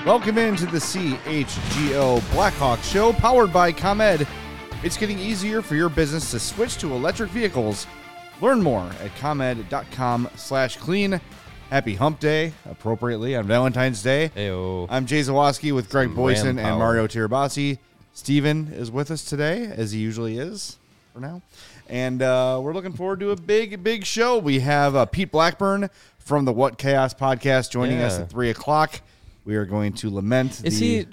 Welcome into the CHGO Blackhawk Show, powered by ComEd. It's getting easier for your business to switch to electric vehicles. Learn more at comed.com/clean. Happy Hump Day, appropriately, on Valentine's Day. Heyo. I'm Jay Zawoski with Greg Boyson Ram and power. Mario Tirabassi. Steven is with us today, as he usually is for now. And we're looking forward to a big show. We have Pete Blackburn from the What Chaos podcast joining us at 3 o'clock. We are going to lament Is he?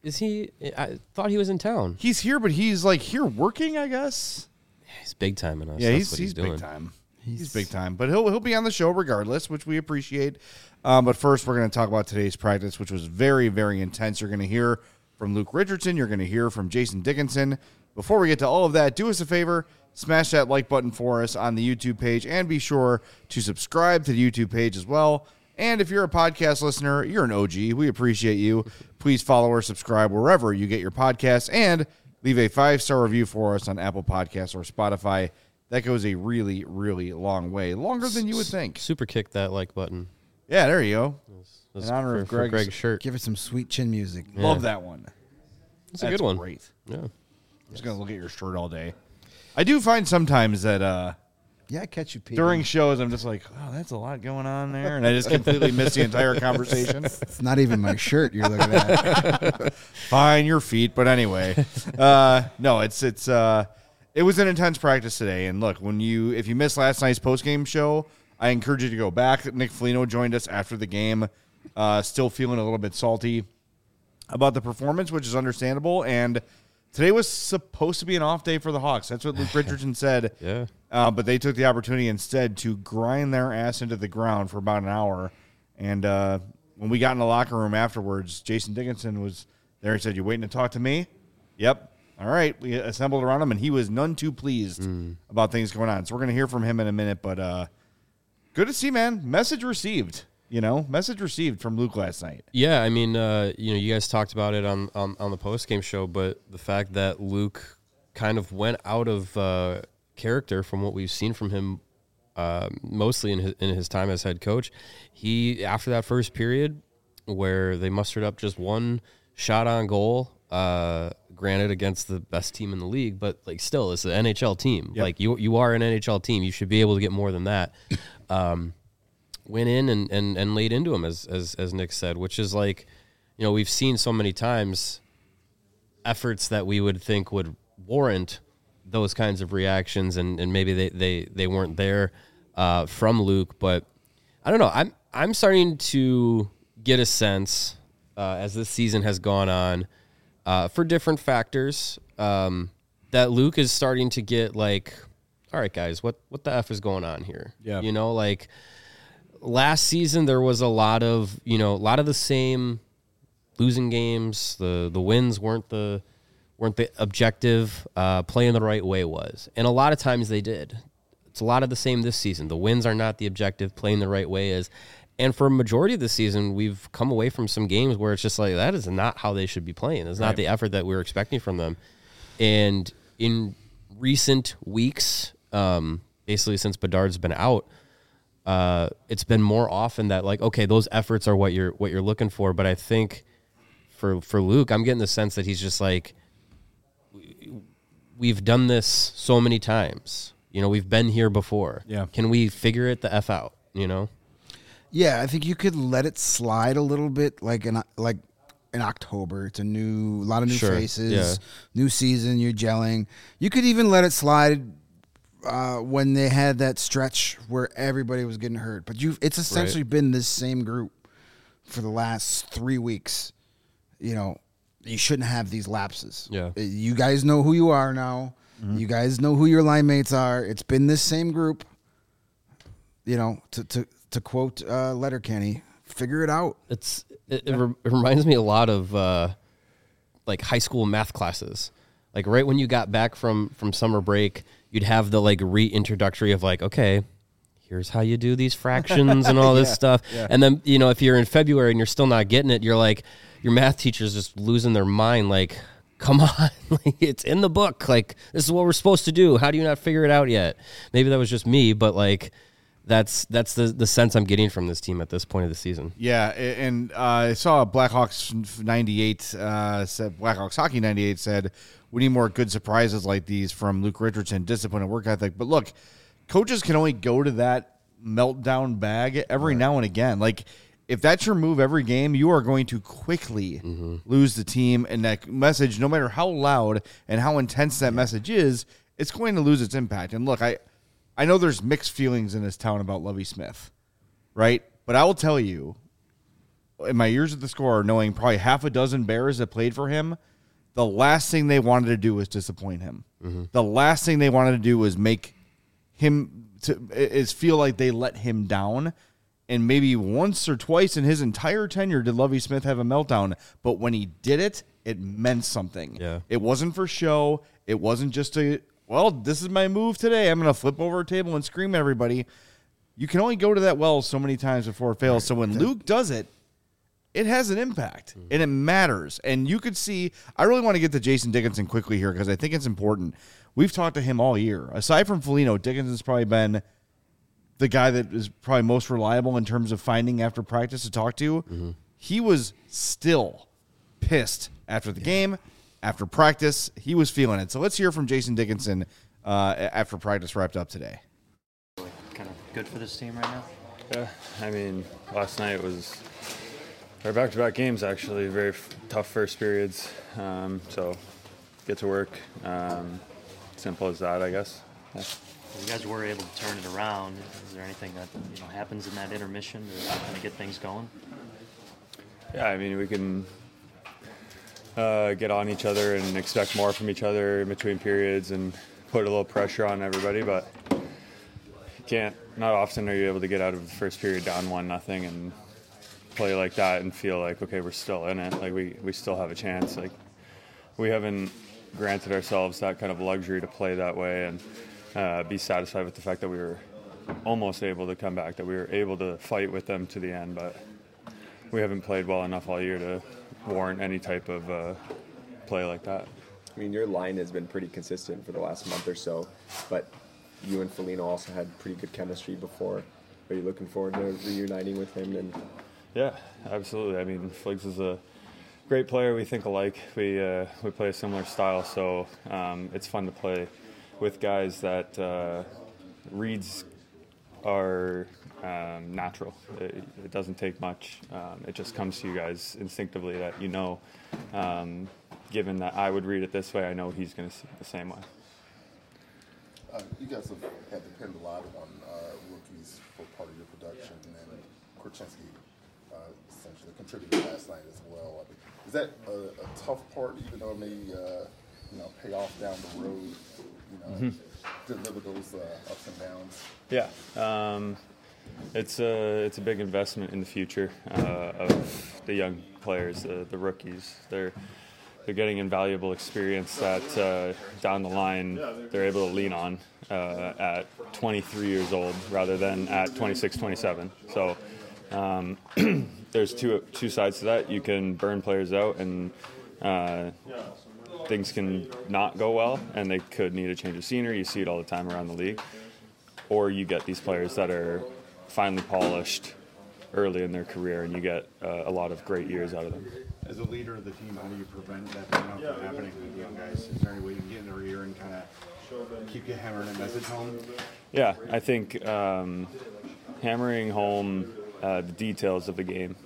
I thought he was in town. He's here, but he's like here working, I guess. He's big time in us. Yeah, That's what he's doing. big time. He's big time. But he'll be on the show regardless, which we appreciate. But first, we're going to talk about today's practice, which was very, very intense. You're going to hear from Luke Richardson. You're going to hear from Jason Dickinson. Before we get to all of that, do us a favor. Smash that like button for us on the YouTube page, and be sure to subscribe to the YouTube page as well. And if you're a podcast listener, you're an OG. We appreciate you. Please follow or subscribe wherever you get your podcasts, and leave a 5-star review for us on Apple Podcasts or Spotify. That goes a really, really long way. Longer than you would think. Super kick that like button. Yeah, there you go. That's In honor of for Greg's Greg's shirt. Give it some sweet chin music. Yeah. Love that one. It's a good one. Great. Yeah. I'm just going to look at your shirt all day. I do find sometimes that Yeah, I catch you, Pete. during shows, I'm just like, oh, that's a lot going on there. And I just completely miss the entire conversation. It's not even my shirt you're looking at. Fine, your feet. But anyway, no, it was an intense practice today. And look, if you missed last night's postgame show, I encourage you to go back. Nick Foligno joined us after the game, still feeling a little bit salty about the performance, which is understandable. And today was supposed to be an off day for the Hawks. That's what Luke Richardson said. Yeah. But they took the opportunity instead to grind their ass into the ground for about an hour. And when we got in the locker room afterwards, Jason Dickinson was there. He said, "You waiting to talk to me?" Yep. All right. We assembled around him, and he was none too pleased about things going on. So we're going to hear from him in a minute. But good to see, man. Message received. Message received from Luke last night. Yeah, I mean, you guys talked about it on the post-game show, but the fact that Luke kind of went out of character from what we've seen from him mostly in his time as head coach, he, after that first period where they mustered up just one shot on goal, granted against the best team in the league, but like still, it's an NHL team. Yep. Like you are an NHL team. You should be able to get more than that. Went in and laid into him, as Nick said, which is like, we've seen so many times efforts that we would think would warrant those kinds of reactions, and maybe they weren't there from Luke. But I don't know. I'm starting to get a sense as this season has gone on for different factors that Luke is starting to get like, all right, guys, what the F is going on here? Yeah. Like last season there was a lot of the same losing games. The wins weren't the objective. Playing the right way was, and a lot of times they did. It's a lot of the same this season. The wins are not the objective. Playing the right way is. And for a majority of the season, we've come away from some games where it's just like, that is not how they should be playing. It's not the effort that we were expecting from them. And in recent weeks, basically since Bedard's been out, it's been more often that like, okay, those efforts are what you're looking for. But I think for Luke, I'm getting the sense that he's just like, we've done this so many times. We've been here before. Yeah. Can we figure it the F out? Yeah, I think you could let it slide a little bit, like in October. It's a lot of new Sure, faces, yeah. new season. You're gelling. You could even let it slide when they had that stretch where everybody was getting hurt. But it's essentially been this same group for the last 3 weeks. You shouldn't have these lapses. Yeah. You guys know who you are now. Mm-hmm. You guys know who your line mates are. It's been this same group. To quote Letterkenny, figure it out. It reminds me a lot of like high school math classes. Like right when you got back from summer break, you'd have the like reintroductory of like, okay, here's how you do these fractions and all this stuff. Yeah. And then, if you're in February and you're still not getting it, you're like, your math teacher's just losing their mind. Like, come on, like, it's in the book. Like, this is what we're supposed to do. How do you not figure it out yet? Maybe that was just me, but like, that's the sense I'm getting from this team at this point of the season. Yeah, and I saw Blackhawks 98 said Blackhawks Hockey 98 said we need more good surprises like these from Luke Richardson, discipline and work ethic. But look, coaches can only go to that meltdown bag every now and again. Like, if that's your move every game, you are going to quickly lose the team. And that message, no matter how loud and how intense that message is, it's going to lose its impact. And look, I know there's mixed feelings in this town about Lovie Smith, right? But I will tell you, in my years at the Score, knowing probably half a dozen Bears that played for him, the last thing they wanted to do was disappoint him. The last thing they wanted to do was make him feel like they let him down. And maybe once or twice in his entire tenure did Lovie Smith have a meltdown. But when he did it, it meant something. Yeah. It wasn't for show. It wasn't just this is my move today. I'm going to flip over a table and scream at everybody. You can only go to that well so many times before it fails. So when Luke does it, it has an impact, and it matters. And you could see, I really want to get to Jason Dickinson quickly here because I think it's important. We've talked to him all year. Aside from Foligno, Dickinson's probably been the guy that is probably most reliable in terms of finding after practice to talk to. He was still pissed after the game. After practice, he was feeling it. So let's hear from Jason Dickinson after practice wrapped up today. Kind of good for this team right now? Yeah, I mean, last night was our back-to-back games, actually. Very tough first periods. So get to work. Simple as that, I guess. Yeah. You guys were able to turn it around. Is there anything that happens in that intermission to kind of get things going? Yeah, I mean, we can get on each other and expect more from each other in between periods and put a little pressure on everybody, but not often are you able to get out of the first period down 1-0 and play like that and feel like, okay, we're still in it. Like we still have a chance. Like we haven't granted ourselves that kind of luxury to play that way and be satisfied with the fact that we were almost able to come back, that we were able to fight with them to the end, but we haven't played well enough all year to warrant any type of play like that. I mean, your line has been pretty consistent for the last month or so, but you and Foligno also had pretty good chemistry before. Are you looking forward to reuniting with him? And yeah, absolutely. I mean, Fliggs is a great player. We think alike. We play a similar style, so it's fun to play with guys that reads are natural. It doesn't take much. It just comes to you guys instinctively that given that I would read it this way, I know he's going to see it the same way. You guys have had to depend a lot on rookies for part of your production, and Korchinski essentially contributed last night as well. I mean, is that a tough part, even though it may pay off down the road? Deliver those ups and downs. Yeah, it's a big investment in the future of the young players, the rookies. They're getting invaluable experience that down the line they're able to lean on at 23 years old rather than at 26, 27. So there's two sides to that. You can burn players out and things can not go well and they could need a change of scenery. You see it all the time around the league. Or you get these players that are finely polished early in their career and you get a lot of great years out of them. As a leader of the team, how do you prevent that from happening with young guys? Is there any way you can get in their ear and kind of keep you hammering a message home? Yeah, I think hammering home the details of the game.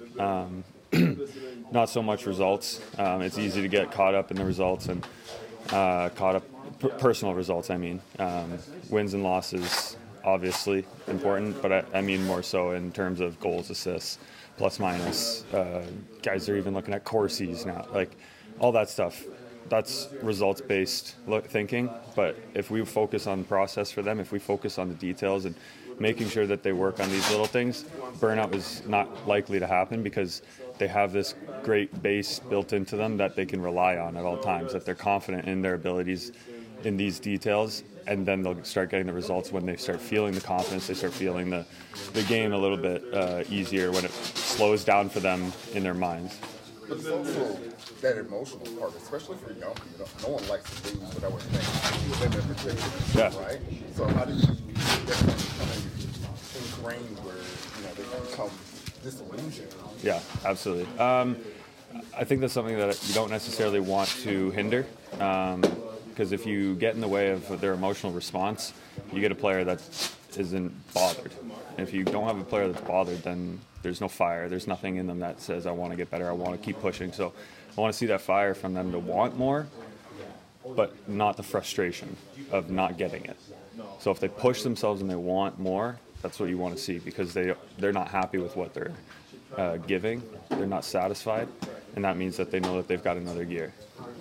Not so much results. It's easy to get caught up in the results and caught up personal results. I mean, wins and losses obviously important, but I mean more so in terms of goals, assists, plus minus. Guys are even looking at Corsi's now, like all that stuff. That's results-based thinking, but if we focus on the process for them, if we focus on the details and making sure that they work on these little things, burnout is not likely to happen because they have this great base built into them that they can rely on at all times, that they're confident in their abilities in these details, and then they'll start getting the results when they start feeling the confidence, they start feeling the game a little bit easier when it slows down for them in their minds. But it's also that emotional part, especially for young people. No one likes to lose, but I would think women in particular, right? So how do you definitely kind of drained where they become disillusioned? Yeah, absolutely. I think that's something that you don't necessarily want to hinder, because if you get in the way of their emotional response, you get a player that isn't bothered. And if you don't have a player that's bothered, then there's no fire. There's nothing in them that says, I want to get better, I want to keep pushing. So I want to see that fire from them to want more, but not the frustration of not getting it. So if they push themselves and they want more, that's what you want to see, because they're not happy with what they're giving. They're not satisfied, and that means that they know that they've got another gear.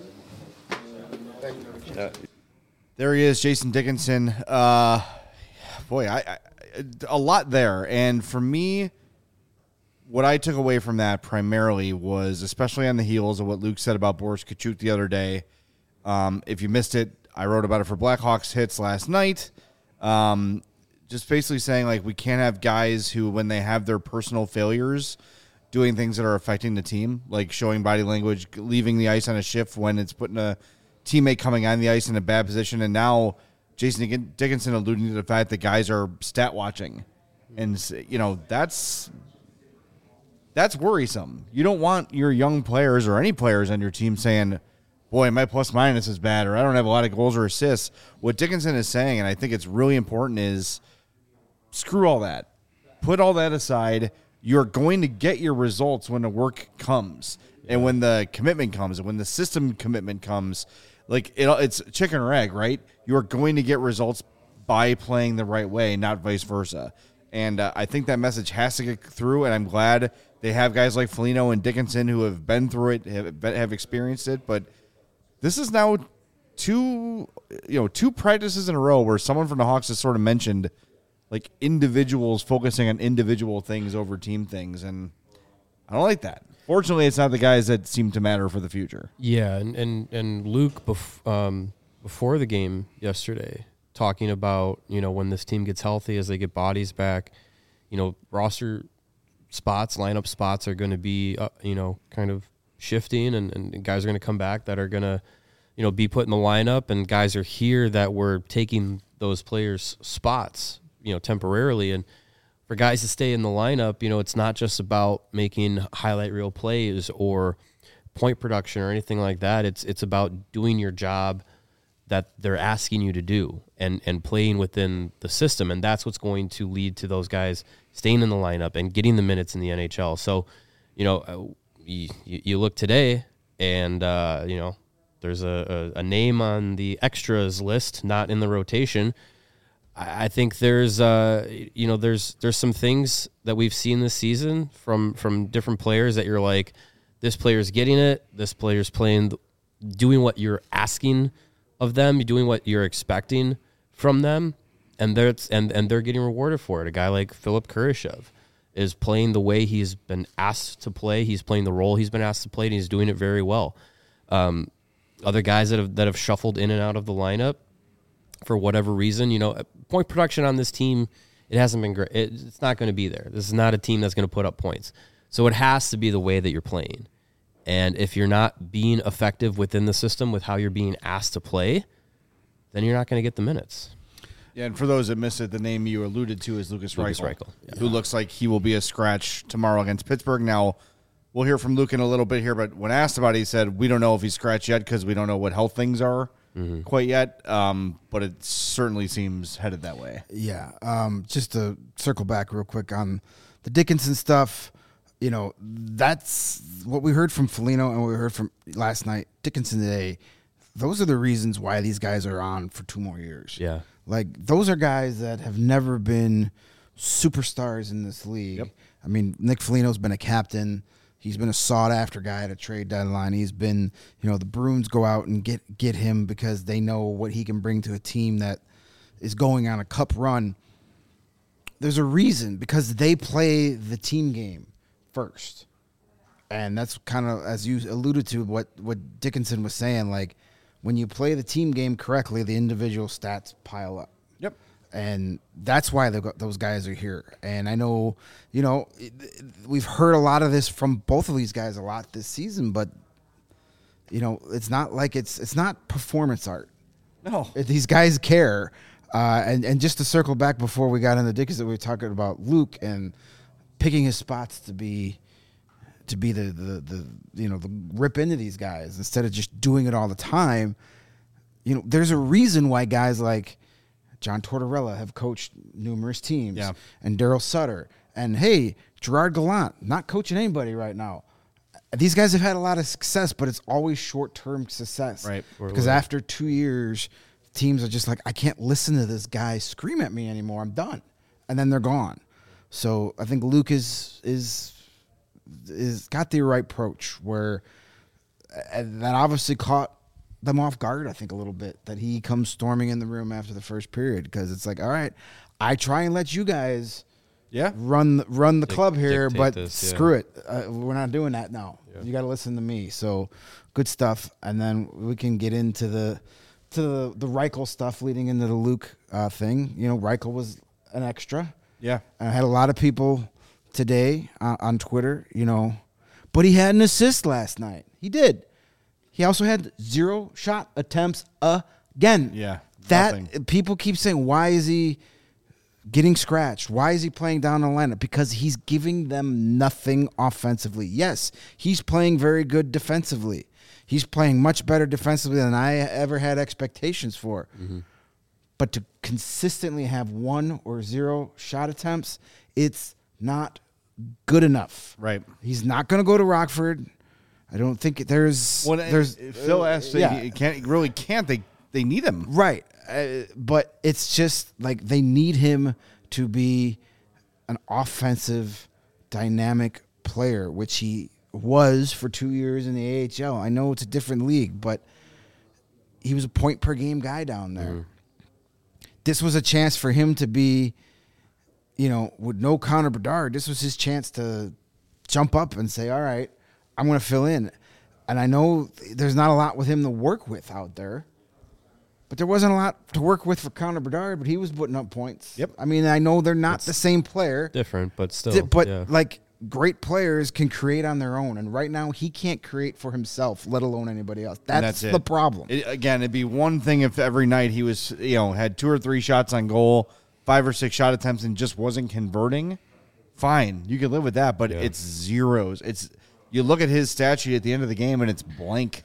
There he is, Jason Dickinson. Boy, I a lot there. And for me, what I took away from that primarily was, especially on the heels of what Luke said about Boris Kachuk the other day. If you missed it, I wrote about it for Blackhawks Hits last night. Just basically saying, like, we can't have guys who, when they have their personal failures, doing things that are affecting the team, like showing body language, leaving the ice on a shift when it's putting a teammate coming on the ice in a bad position. And now Jason Dickinson alluding to the fact that guys are stat watching. And, that's worrisome. You don't want your young players or any players on your team saying, boy, my plus minus is bad, or I don't have a lot of goals or assists. What Dickinson is saying, and I think it's really important, is screw all that. Put all that aside. You're going to get your results when the work comes and when the commitment comes and when the system commitment comes. Like, it's chicken or egg, right? You're going to get results by playing the right way, not vice versa. And I think that message has to get through, and I'm glad they have guys like Foligno and Dickinson who have been through it, have experienced it. But this is now two practices in a row where someone from the Hawks has sort of mentioned, like, individuals focusing on individual things over team things, and I don't like that. Fortunately, it's not the guys that seem to matter for the future. Yeah, and Luke before the game yesterday, talking about, when this team gets healthy, as they get bodies back, roster spots, lineup spots are going to be, kind of shifting, and guys are going to come back that are going to, be put in the lineup, and guys are here that were taking those players' spots, temporarily. And for guys to stay in the lineup, it's not just about making highlight reel plays or point production or anything like that. It's about doing your job that they're asking you to do and playing within the system. And that's what's going to lead to those guys staying in the lineup and getting the minutes in the NHL. So, you look today and, there's a name on the extras list, not in the rotation. I think there's some things that we've seen this season from different players that you're like, this player's getting it, this player's doing what you're asking of them, doing what you're expecting from them, and they're getting rewarded for it. A guy like Philip Kurashev is playing the way he's been asked to play. He's playing the role he's been asked to play, and he's doing it very well. Other guys that have shuffled in and out of the lineup for whatever reason, point production on this team, it hasn't been great. It's not going to be there. This is not a team that's going to put up points. So it has to be the way that you're playing. And if you're not being effective within the system with how you're being asked to play, then you're not going to get the minutes. Yeah, and for those that missed it, the name you alluded to is Lucas Reichel, yeah. Who looks like he will be a scratch tomorrow against Pittsburgh. Now, we'll hear from Luke in a little bit here, but when asked about it, he said, we don't know if he's scratched yet because we don't know what health things are quite yet, but it certainly seems headed that way. Yeah, just to circle back real quick on the Dickinson stuff, that's what we heard from Foligno and what we heard from last night. Dickinson today, those are the reasons why these guys are on for 2 more years. Yeah. Like, those are guys that have never been superstars in this league. Yep. I mean, Nick Foligno's been a captain. He's been a sought-after guy at a trade deadline. He's been, the Bruins go out and get him because they know what he can bring to a team that is going on a cup run. There's a reason, because they play the team game first. And that's kind of, as you alluded to, what Dickinson was saying, like, when you play the team game correctly, the individual stats pile up. Yep. And that's why those guys are here. And I know, we've heard a lot of this from both of these guys a lot this season, but, it's not like it's not performance art. No. These guys care. And just to circle back before we got into Dickinson, we were talking about Luke and picking his spots to be the rip into these guys instead of just doing it all the time. There's a reason why guys like John Tortorella have coached numerous teams, and Daryl Sutter, and hey, Gerard Gallant, not coaching anybody right now. These guys have had a lot of success, but it's always short-term success. Right. Because after 2 years, teams are just like, I can't listen to this guy scream at me anymore. I'm done. And then they're gone. So I think Luke is got the right approach where that obviously caught them off guard, I think, a little bit, that he comes storming in the room after the first period because it's like, all right, I try and let you guys run the club here, but screw it. We're not doing that now. Yeah. You got to listen to me. So good stuff. And then we can get into the Reichel stuff leading into the Luke thing. Reichel was an extra. Yeah. I had a lot of people today on Twitter, but he had an assist last night. He did. He also had 0 shot attempts again. Yeah. That people keep saying, why is he getting scratched? Why is he playing down the lineup? Because he's giving them nothing offensively. Yes, he's playing very good defensively. He's playing much better defensively than I ever had expectations for. Mm-hmm. But to consistently have 1 or 0 shot attempts, it's not good enough. Right. He's not going to go to Rockford. I don't think there's. Phil asked, can't. They need him. Right. But it's just like they need him to be an offensive, dynamic player, which he was for 2 years in the AHL. I know it's a different league, but he was a point-per-game guy down there. Mm. This was a chance for him to be, with no Connor Bedard, this was his chance to jump up and say, all right, I'm going to fill in. And I know there's not a lot with him to work with out there. But there wasn't a lot to work with for Connor Bedard, but he was putting up points. Yep. I mean, I know they're not the same player. Different, but still. Great players can create on their own. And right now, he can't create for himself, let alone anybody else. That's the problem. It'd be one thing if every night he was, had 2 or 3 shots on goal, 5 or 6 shot attempts, and just wasn't converting. Fine. You can live with that, but it's zeros. You look at his stat sheet at the end of the game, and it's blank.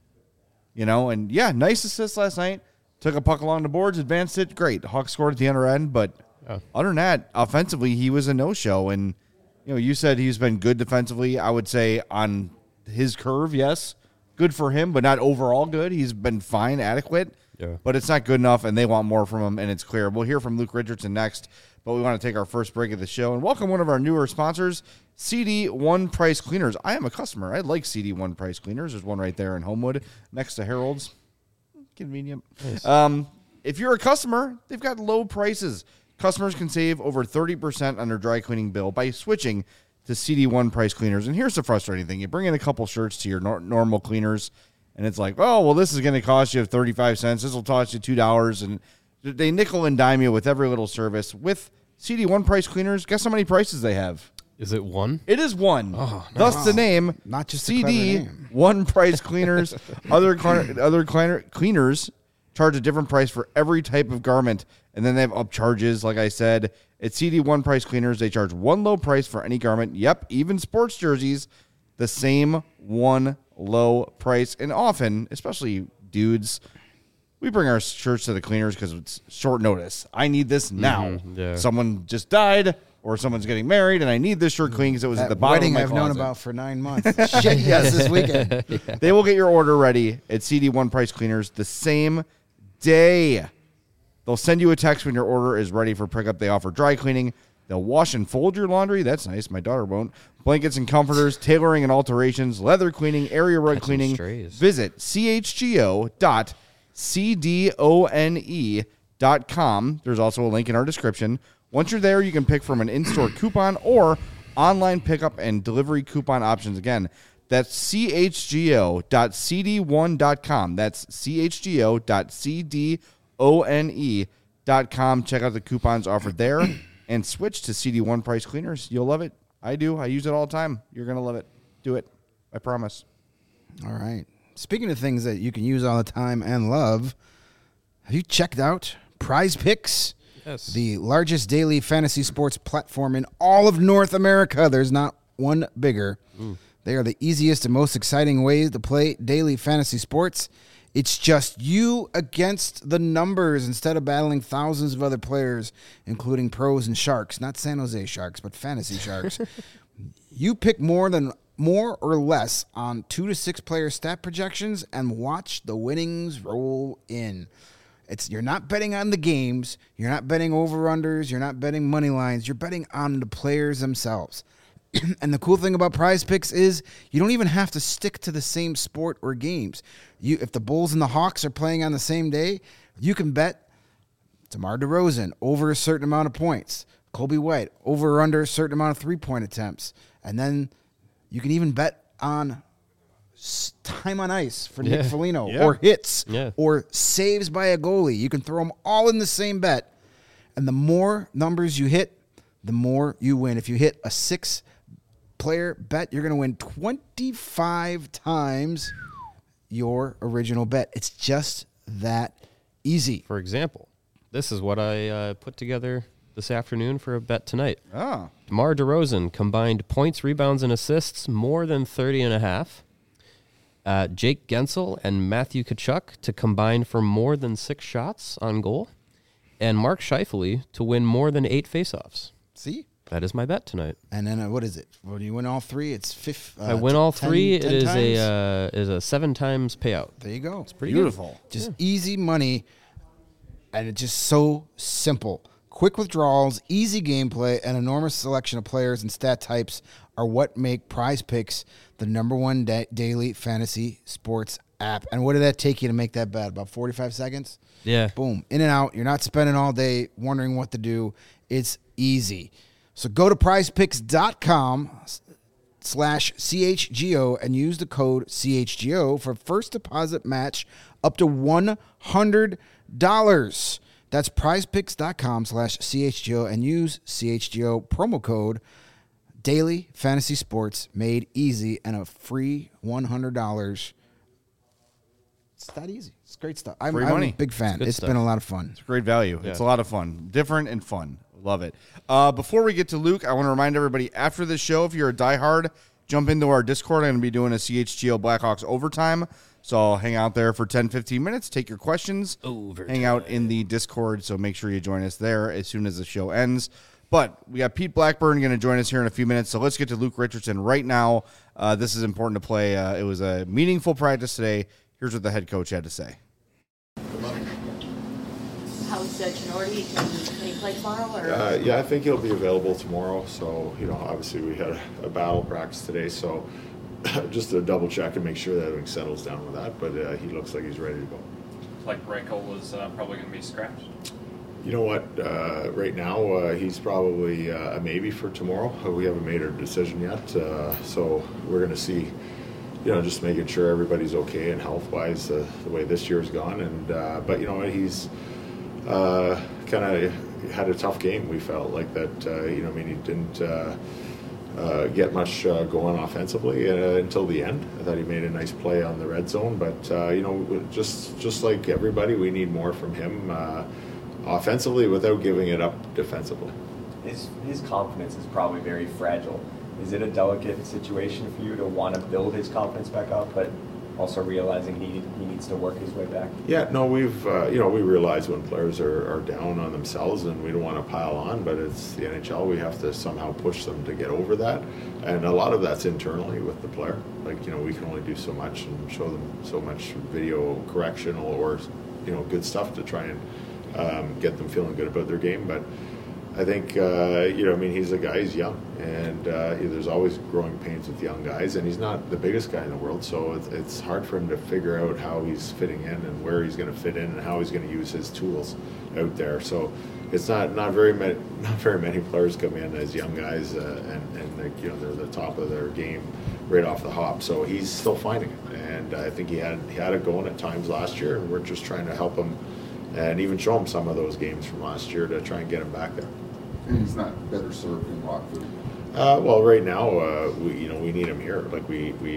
Nice assist last night. Took a puck along the boards, advanced it. Great. Hawks scored at the other end. But other than that, offensively, he was a no-show. And, you said he's been good defensively. I would say on his curve, yes. Good for him, but not overall good. He's been fine, adequate. Yeah. But it's not good enough, and they want more from him, and it's clear. We'll hear from Luke Richardson next, but we want to take our first break of the show and welcome one of our newer sponsors, CD One Price Cleaners. I am a customer. I like CD One Price Cleaners. There's one right there in Homewood next to Harold's. Convenient. Nice. If you're a customer, they've got low prices. Customers can save over 30% on their dry cleaning bill by switching to CD One Price Cleaners. And here's the frustrating thing. You bring in a couple shirts to your normal cleaners, and it's like, oh, well, this is going to cost you 35 cents. This will cost you $2. And they nickel and dime you with every little service. With CD One Price Cleaners, guess how many prices they have? Is it 1? It is 1. Oh, nice. Thus the name. Not just CD One Price Cleaners. Other cleaners charge a different price for every type of garment, and then they have upcharges. Like I said, at CD One Price Cleaners, they charge one low price for any garment. Yep, even sports jerseys, the same one low price. And often, especially dudes, we bring our shirts to the cleaners because it's short notice. I need this now. Mm-hmm, yeah. Someone just died, or someone's getting married, and I need this shirt clean because it was at the bottom of my wedding closet. I've known about for 9 months. Shit, yes, this weekend. Yeah. They will get your order ready at CD One Price Cleaners the same day. They'll send you a text when your order is ready for pickup. They offer dry cleaning. They'll wash and fold your laundry. That's nice. My daughter won't. Blankets and comforters, tailoring and alterations, leather cleaning, area rug cleaning. Visit chgo.cdone.com. There's also a link in our description. Once you're there, you can pick from an in-store coupon or online pickup and delivery coupon options. Again, that's chgo.cd1.com. That's chgo.cdone.com. Check out the coupons offered there and switch to CD One Price Cleaners. You'll love it. I do. I use it all the time. You're going to love it. Do it. I promise. All right. Speaking of things that you can use all the time and love, have you checked out Prize Picks, Yes. the largest daily fantasy sports platform in all of North America. There's not one bigger. They are the easiest and most exciting ways to play daily fantasy sports. It's just you against the numbers instead of battling thousands of other players, including pros and sharks. Not San Jose Sharks, but fantasy sharks. You pick more or less on 2 to 6 player stat projections and watch the winnings roll in. You're not betting on the games, you're not betting over-unders, you're not betting money lines, you're betting on the players themselves. And the cool thing about Prize Picks is you don't even have to stick to the same sport or games. If the Bulls and the Hawks are playing on the same day, you can bet DeMar DeRozan over a certain amount of points, Kobe White over or under a certain amount of 3-point attempts, and then you can even bet on time on ice for Nick Foligno, or hits, or saves by a goalie. You can throw them all in the same bet, and the more numbers you hit, the more you win. If you hit a 6-player bet, you're going to win 25 times your original bet. It's just that easy. For example, this is what I put together this afternoon for a bet tonight. Oh. DeMar DeRozan combined points, rebounds, and assists more than 30.5. Jake Gensel and Matthew Tkachuk to combine for more than 6 shots on goal. And Mark Scheifele to win more than 8 faceoffs. See? That is my bet tonight. And then what is it? Well, do you win all 3? It's I win all 3. 10 It is times? a 7 times payout. There you go. It's pretty Beautiful. Just easy money, and it's just so simple. Quick withdrawals, easy gameplay, and enormous selection of players and stat types are what make Prize Picks the #1 daily fantasy sports app. And what did that take you to make that bet? About 45 seconds? Yeah. Boom. In and out. You're not spending all day wondering what to do. It's easy. So go to prizepicks.com/CHGO and use the code CHGO for first deposit match up to $100. That's prizepicks.com/CHGO and use CHGO promo code Daily Fantasy Sports, made easy, and a free $100. It's that easy. It's great stuff. I'm money. a big fan. good It's stuff. been a lot of fun. It's great value. It's a lot of fun. Different and fun. Love it. Before we get to Luke, I want to remind everybody after this show, if you're a diehard, jump into our Discord. I'm going to be doing a CHGO Blackhawks overtime. So I'll hang out there for 10, 15 minutes, take your questions, hang out in the Discord. So make sure you join us there as soon as the show ends. But we got Pete Blackburn going to join us here in a few minutes. So let's get to Luke Richardson right now. This is important to play. It was a meaningful practice today. Here's what the head coach had to say. How's Ginordi? Can he play tomorrow? Or? Yeah, I think he'll be available tomorrow. So, obviously we had a battle practice today. So just to double check and make sure that everything settles down with that. But he looks like he's ready to go. Like Reichel was probably going to be scratched? You know what? Right now, he's probably a maybe for tomorrow. We haven't made our decision yet. So we're going to see, just making sure everybody's okay and health-wise the way this year's gone. And but he's kind of had a tough game. We felt like that. He didn't get much going offensively until the end. I thought he made a nice play on the red zone, but just like everybody, we need more from him offensively without giving it up defensively. His confidence is probably very fragile. Is it a delicate situation for you to want to build his confidence back up, but also realizing he needs to work his way back? Yeah, no, we've we realize when players are down on themselves and we don't want to pile on, but it's the NHL. We have to somehow push them to get over that, and a lot of that's internally with the player. Like we can only do so much and show them so much video correctional or good stuff to try and get them feeling good about their game, but. I think, he's a guy, he's young, and there's always growing pains with young guys, and he's not the biggest guy in the world, so it's hard for him to figure out how he's fitting in and where he's going to fit in and how he's going to use his tools out there. So it's not very many players come in as young guys, and they're the top of their game right off the hop. So he's still finding it, and I think he had it going at times last year, and we're just trying to help him and even show him some of those games from last year to try and get him back there. And he's not better served in Rockford. Well, right now we need him here. Like we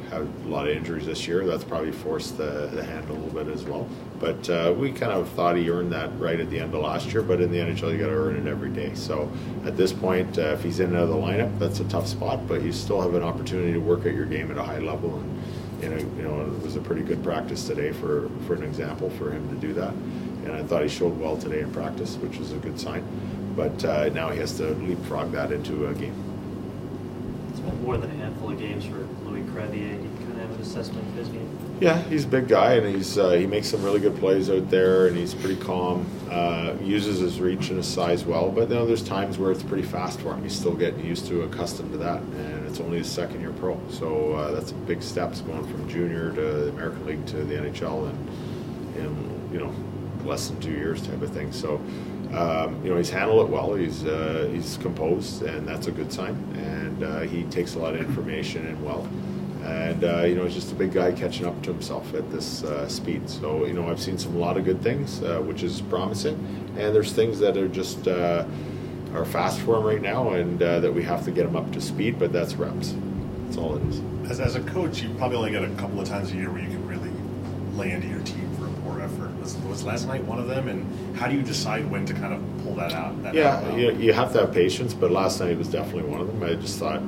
had a lot of injuries this year. That's probably forced the hand a little bit as well. But we kind of thought he earned that right at the end of last year. But in the NHL, you got to earn it every day. So at this point, if he's in and out of the lineup, that's a tough spot. But you still have an opportunity to work at your game at a high level. And it was a pretty good practice today for an example for him to do that. And I thought he showed well today in practice, which is a good sign. But now he has to leapfrog that into a game. It's been more than a handful of games for Louis Crevier. You kind of have an assessment of his game. Yeah, he's a big guy, and he makes some really good plays out there, and he's pretty calm. Uses his reach and his size well, but there's times where it's pretty fast for him. He's still getting used to, accustomed to that, and it's only his second year pro. So that's big steps going from junior to the American League to the NHL in less than 2 years type of thing. So he's handled it well. He's composed, and that's a good sign. And he takes a lot of information in well. And, he's just a big guy catching up to himself at this speed. So, I've seen a lot of good things, which is promising. And there's things that are just are fast for him right now, and that we have to get him up to speed, but that's reps. That's all it is. As a coach, you probably only get a couple of times a year where you can really lay into your team for a poor effort. Was last night one of them? And how do you decide when to kind of pull that out? You have to have patience, but last night was definitely one of them. I just thought,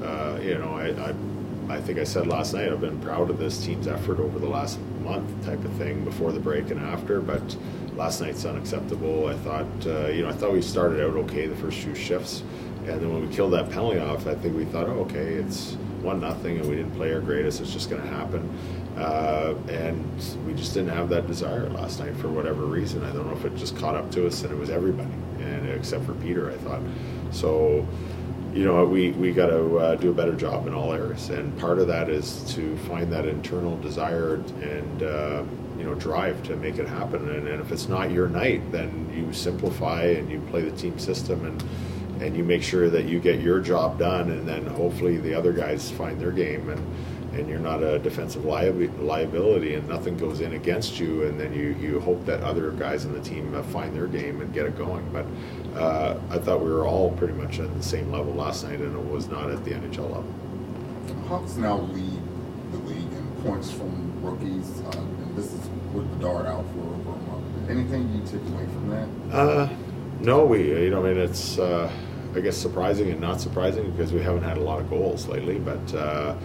I think I said last night, I've been proud of this team's effort over the last month type of thing, before the break and after, but last night's unacceptable. I thought we started out okay the first few shifts, and then when we killed that penalty off, I think we thought, okay, it's 1-0 and we didn't play our greatest, it's just going to happen. And we just didn't have that desire last night for whatever reason. I don't know if it just caught up to us, and it was everybody, and except for Peter, I thought. So, we got to do a better job in all areas, and part of that is to find that internal desire and drive to make it happen. And if it's not your night, then you simplify and you play the team system, and you make sure that you get your job done, and then hopefully the other guys find their game, and you're not a defensive liability, and nothing goes in against you, and then you hope that other guys in the team find their game and get it going. But I thought we were all pretty much at the same level last night, and it was not at the NHL level. Hawks now lead the league in points from rookies, and this is with Bedard out for over a month. Anything you take away from that? No, it's I guess surprising and not surprising, because we haven't had a lot of goals lately, but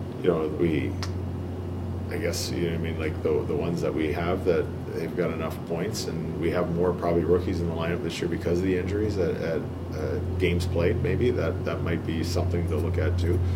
I guess, like the ones that we have, that they've got enough points, and we have more probably rookies in the lineup this year because of the injuries at games played. Maybe that might be something to look at too.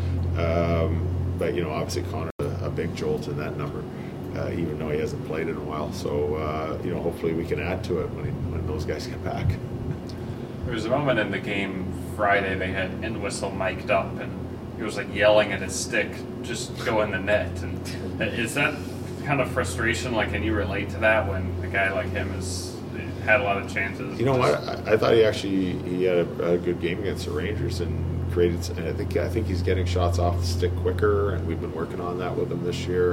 But obviously Connor a big jolt in that number, even though he hasn't played in a while. So hopefully we can add to it when those guys get back. There was a moment in the game Friday they had Entwistle mic'd up, and he was like yelling at his stick, just go in the net. And is that kind of frustration? Like, can you relate to that when a guy like him has had a lot of chances? You know what? I thought he had a good game against the Rangers and created. And I think he's getting shots off the stick quicker, and we've been working on that with him this year.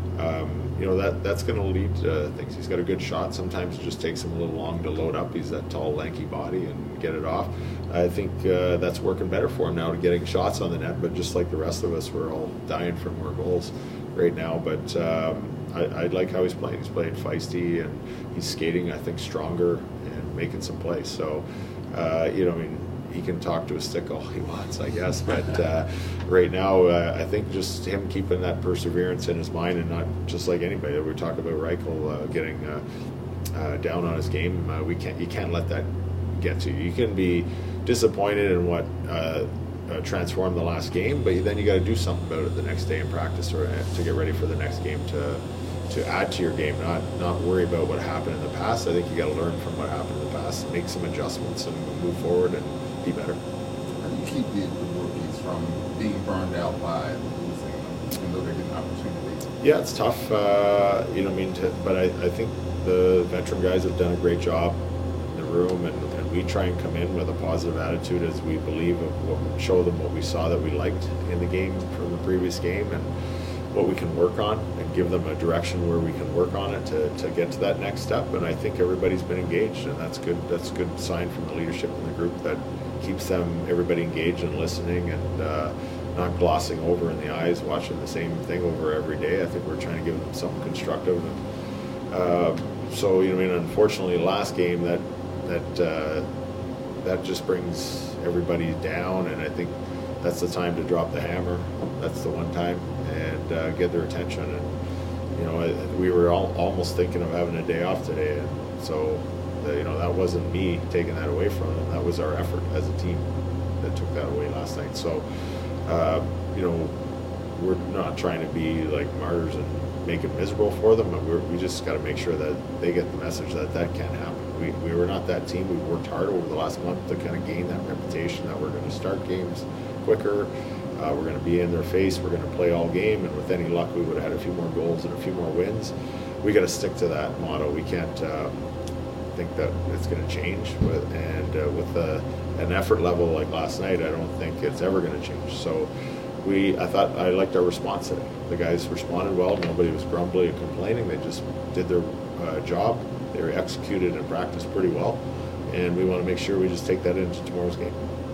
And that's going to lead to things. He's got a good shot. Sometimes it just takes him a little long to load up. He's that tall, lanky body, and get it off. I think that's working better for him now, to getting shots on the net. But just like the rest of us, we're all dying for more goals right now. But I like how he's playing. He's playing feisty, and he's skating, I think, stronger and making some plays. So, he can talk to a stick all he wants, I guess. But right now, I think just him keeping that perseverance in his mind, and not just like anybody. We talk about Reichel getting down on his game. You can't let that get to you. You can be disappointed in what transformed the last game, but then you got to do something about it the next day in practice, or to get ready for the next game, to add to your game, not worry about what happened in the past. I think you got to learn from what happened in the past, make some adjustments, and move forward and be better. How do you keep the rookies from being burned out by losing them, even though they're getting opportunities? Yeah, it's tough. But I think the veteran guys have done a great job in the room, and we try and come in with a positive attitude, as we believe show them what we saw that we liked in the game from the previous game, and what we can work on, and give them a direction where we can work on it to get to that next step. And I think everybody's been engaged, and that's good. That's a good sign from the leadership in the group, that keeps everybody engaged and listening, and not glossing over in the eyes, watching the same thing over every day. I think we're trying to give them something constructive. And so, you know, I mean, unfortunately, last game that just brings everybody down, and I think that's the time to drop the hammer. That's the one time, and get their attention. And you know, we were almost thinking of having a day off today, and so you know, that wasn't me taking that away from them. That was our effort as a team that took that away last night. So, you know, we're not trying to be like martyrs and make it miserable for them, but we just got to make sure that they get the message that can't happen. We were not that team. We worked hard over the last month to kind of gain that reputation that we're going to start games quicker. We're going to be in their face. We're going to play all game, and with any luck, we would have had a few more goals and a few more wins. We got to stick to that motto. We can't think that it's going to change. With an effort level like last night, I don't think it's ever going to change. So I thought I liked our response today. The guys responded well. Nobody was grumbling or complaining. They just did their job. They were executed in practice pretty well, and we want to make sure we just take that into tomorrow's game.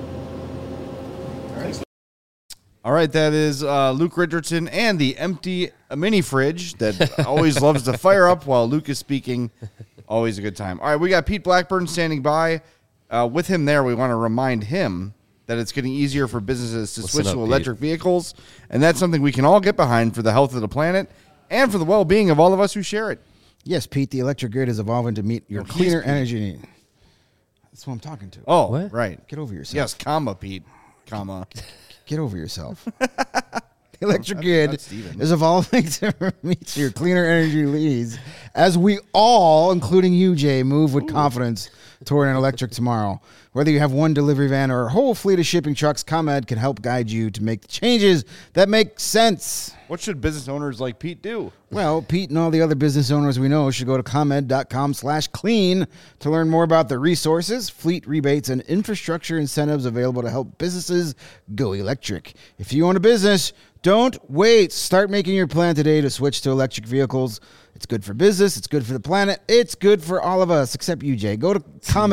All right, that is Luke Richardson and the empty mini fridge that always loves to fire up while Luke is speaking. Always a good time. All right, we got Pete Blackburn standing by. With him there, we want to remind him that it's getting easier for businesses to switch to electric vehicles, and that's something we can all get behind for the health of the planet and for the well-being of all of us who share it. Yes, Pete, the electric grid is evolving to meet your cleaner energy need. That's what I'm talking to. Oh, what? Right. Get over yourself. Yes, comma, Pete. Comma. Get over yourself. The electric grid is evolving to meet your cleaner energy needs as we all, including you, Jay, move with confidence toward an electric tomorrow. Whether you have one delivery van or a whole fleet of shipping trucks, ComEd can help guide you to make the changes that make sense. What should business owners like Pete do? Well, Pete and all the other business owners we know should go to ComEd.com/clean to learn more about the resources, fleet rebates, and infrastructure incentives available to help businesses go electric. If you own a business, don't wait. Start making your plan today to switch to electric vehicles. It's good for business. It's good for the planet. It's good for all of us, except you, Jay. Go to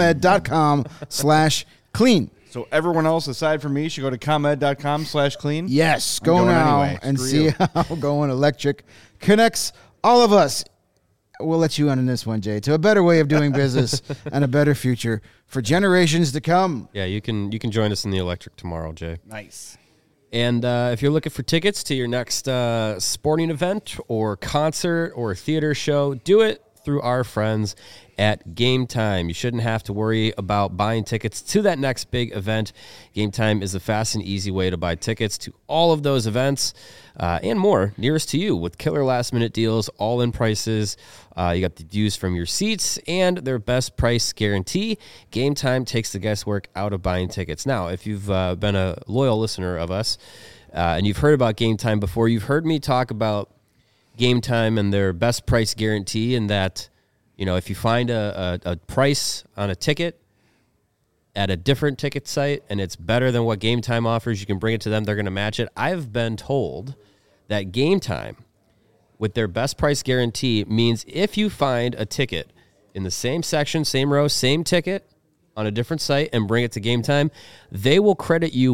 ComEd.com/clean. So everyone else aside from me should go to ComEd.com/clean? Yes, go now anyway. and see how going electric connects all of us. We'll let you in on this one, Jay, to a better way of doing business and a better future for generations to come. Yeah, you can join us in the electric tomorrow, Jay. Nice. And if you're looking for tickets to your next sporting event or concert or theater show, do it through our friends at Game Time. You shouldn't have to worry about buying tickets to that next big event. Game Time is the fast and easy way to buy tickets to all of those events and more nearest to you with killer last-minute deals, all-in prices. You got the views from your seats and their best price guarantee. Game Time takes the guesswork out of buying tickets. Now, if you've been a loyal listener of us and you've heard about Game Time before, you've heard me talk about Game Time and their best price guarantee, and that, you know, if you find a price on a ticket at a different ticket site and it's better than what Game Time offers, you can bring it to them. They're going to match it. I've been told that Game Time, with their best price guarantee, means if you find a ticket in the same section, same row, same ticket on a different site and bring it to Game Time, they will credit you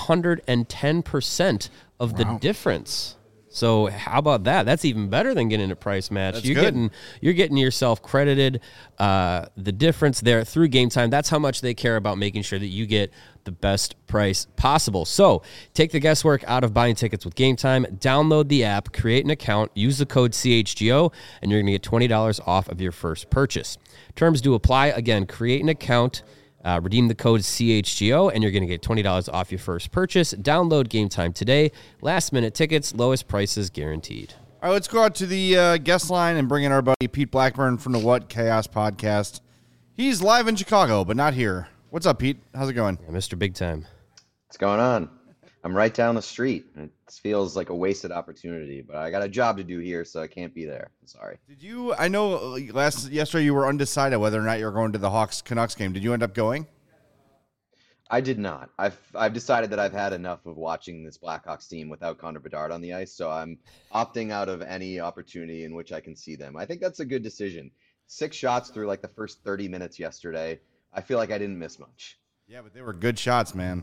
110% of the difference. So how about that? That's even better than getting a price match. That's you're good. getting yourself credited the difference there through Game Time. That's how much they care about making sure that you get the best price possible. So take the guesswork out of buying tickets with Game Time. Download the app, create an account, use the code CHGO, and you're going to get $20 off of your first purchase. Terms do apply. Again, create an account, redeem the code CHGO, and you're going to get $20 off your first purchase. Download Game Time today. Last-minute tickets, lowest prices guaranteed. All right, let's go out to the guest line and bring in our buddy Pete Blackburn from the What Chaos podcast. He's live in Chicago, but not here. What's up, Pete? How's it going? Yeah, Mr. Big Time. What's going on? I'm right down the street. It feels like a wasted opportunity, but I got a job to do here, so I can't be there. I'm sorry. Did you? I know yesterday you were undecided whether or not you were going to the Hawks-Canucks game. Did you end up going? I did not. I've decided that I've had enough of watching this Blackhawks team without Connor Bedard on the ice, so I'm opting out of any opportunity in which I can see them. I think that's a good decision. 6 shots through like the first 30 minutes yesterday. I feel like I didn't miss much. Yeah, but they were good shots, man.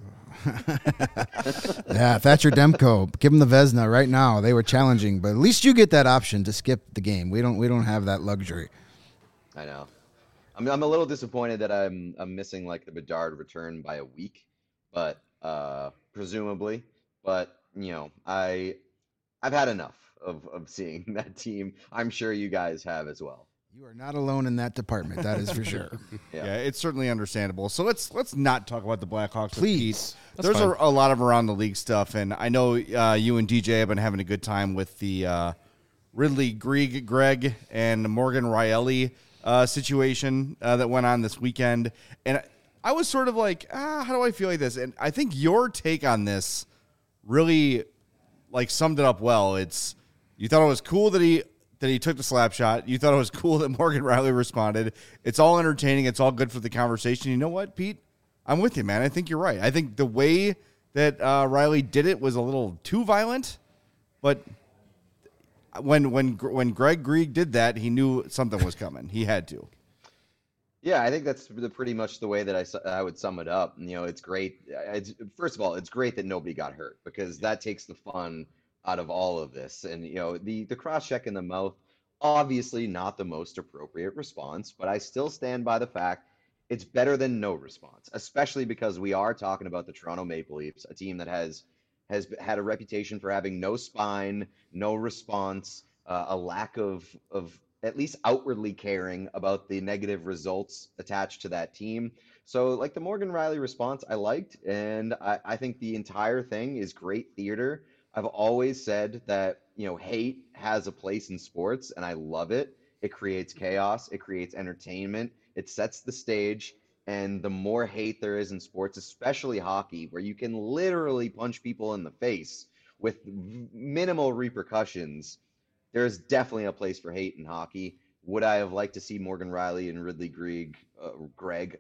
Yeah, Thatcher Demko, give him the Vezina right now. They were challenging, but at least you get that option to skip the game. We don't have that luxury. I know. I'm a little disappointed that I'm missing like the Bedard return by a week, but presumably. But I've had enough of seeing that team. I'm sure you guys have as well. You are not alone in that department. That is for sure. Yeah, it's certainly understandable. So let's not talk about the Blackhawks. Please. There's a lot of around the league stuff, and I know you and DJ have been having a good time with the Ridley Greg and Morgan Rielly situation that went on this weekend. And I was sort of like, how do I feel like this? And I think your take on this really summed it up well. It's you thought it was cool that he took the slap shot. You thought it was cool that Morgan Rielly responded. It's all entertaining. It's all good for the conversation. You know what, Pete? I'm with you, man. I think you're right. I think the way that Rielly did it was a little too violent, but when Greg Grieg did that, he knew something was coming. He had to. Yeah, I think that's pretty much the way that I would sum it up. It's great. First of all, it's great that nobody got hurt because that takes the fun out of all of this. And the cross check in the mouth, obviously not the most appropriate response, but I still stand by the fact it's better than no response, especially because we are talking about the Toronto Maple Leafs, a team that has had a reputation for having no spine, no response, a lack of at least outwardly caring about the negative results attached to that team. So the Morgan Rielly response I liked, and I think the entire thing is great theater. I've always said that, hate has a place in sports, and I love it. It creates chaos. It creates entertainment. It sets the stage. And the more hate there is in sports, especially hockey, where you can literally punch people in the face with minimal repercussions, there's definitely a place for hate in hockey. Would I have liked to see Morgan Rielly and Ridley Greg,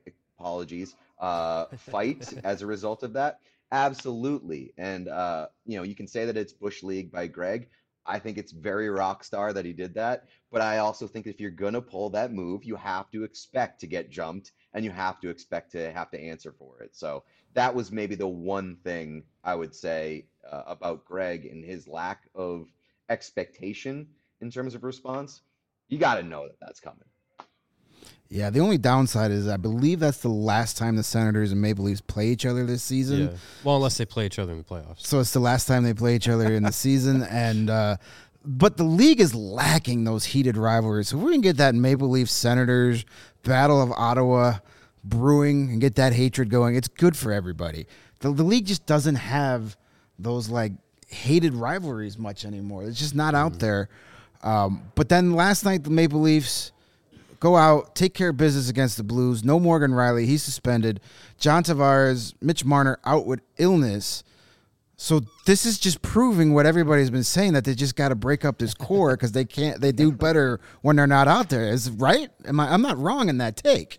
fight as a result of that? Absolutely. And, you can say that it's Bush League by Greg. I think it's very rock star that he did that. But I also think if you're going to pull that move, you have to expect to get jumped and you have to expect to have to answer for it. So that was maybe the one thing I would say about Greg and his lack of expectation in terms of response. You got to know that that's coming. Yeah, the only downside is I believe that's the last time the Senators and Maple Leafs play each other this season. Yeah. Well, unless they play each other in the playoffs. So it's the last time they play each other in the season. And but the league is lacking those heated rivalries. So if we can get that Maple Leafs Senators Battle of Ottawa brewing and get that hatred going, it's good for everybody. The league just doesn't have those hated rivalries much anymore. It's just not out there. But then last night the Maple Leafs go out, take care of business against the Blues. No Morgan Rielly. He's suspended. John Tavares, Mitch Marner out with illness. So this is just proving what everybody's been saying, that they just got to break up this core because they do better when they're not out there. Is right? I'm not wrong in that take.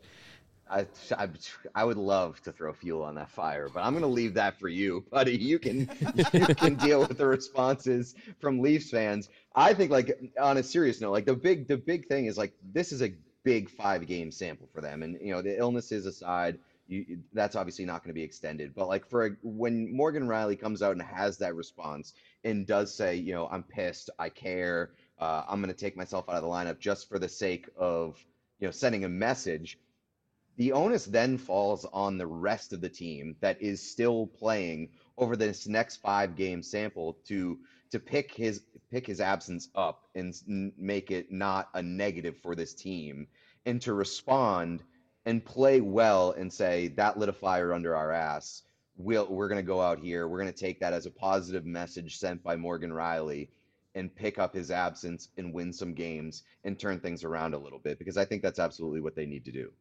I would love to throw fuel on that fire, but I'm going to leave that for you, buddy. You can deal with the responses from Leafs fans. I think on a serious note, the big thing is this is a big 5-game sample for them. And, the illnesses aside, that's obviously not going to be extended. But when Morgan Rielly comes out and has that response and does say, I'm pissed, I care, I'm going to take myself out of the lineup just for the sake of, sending a message, the onus then falls on the rest of the team that is still playing over this next 5-game sample to pick his absence up and make it not a negative for this team, and to respond and play well and say that lit a fire under our ass. We're going to go out here. We're going to take that as a positive message sent by Morgan Rielly and pick up his absence and win some games and turn things around a little bit, because I think that's absolutely what they need to do.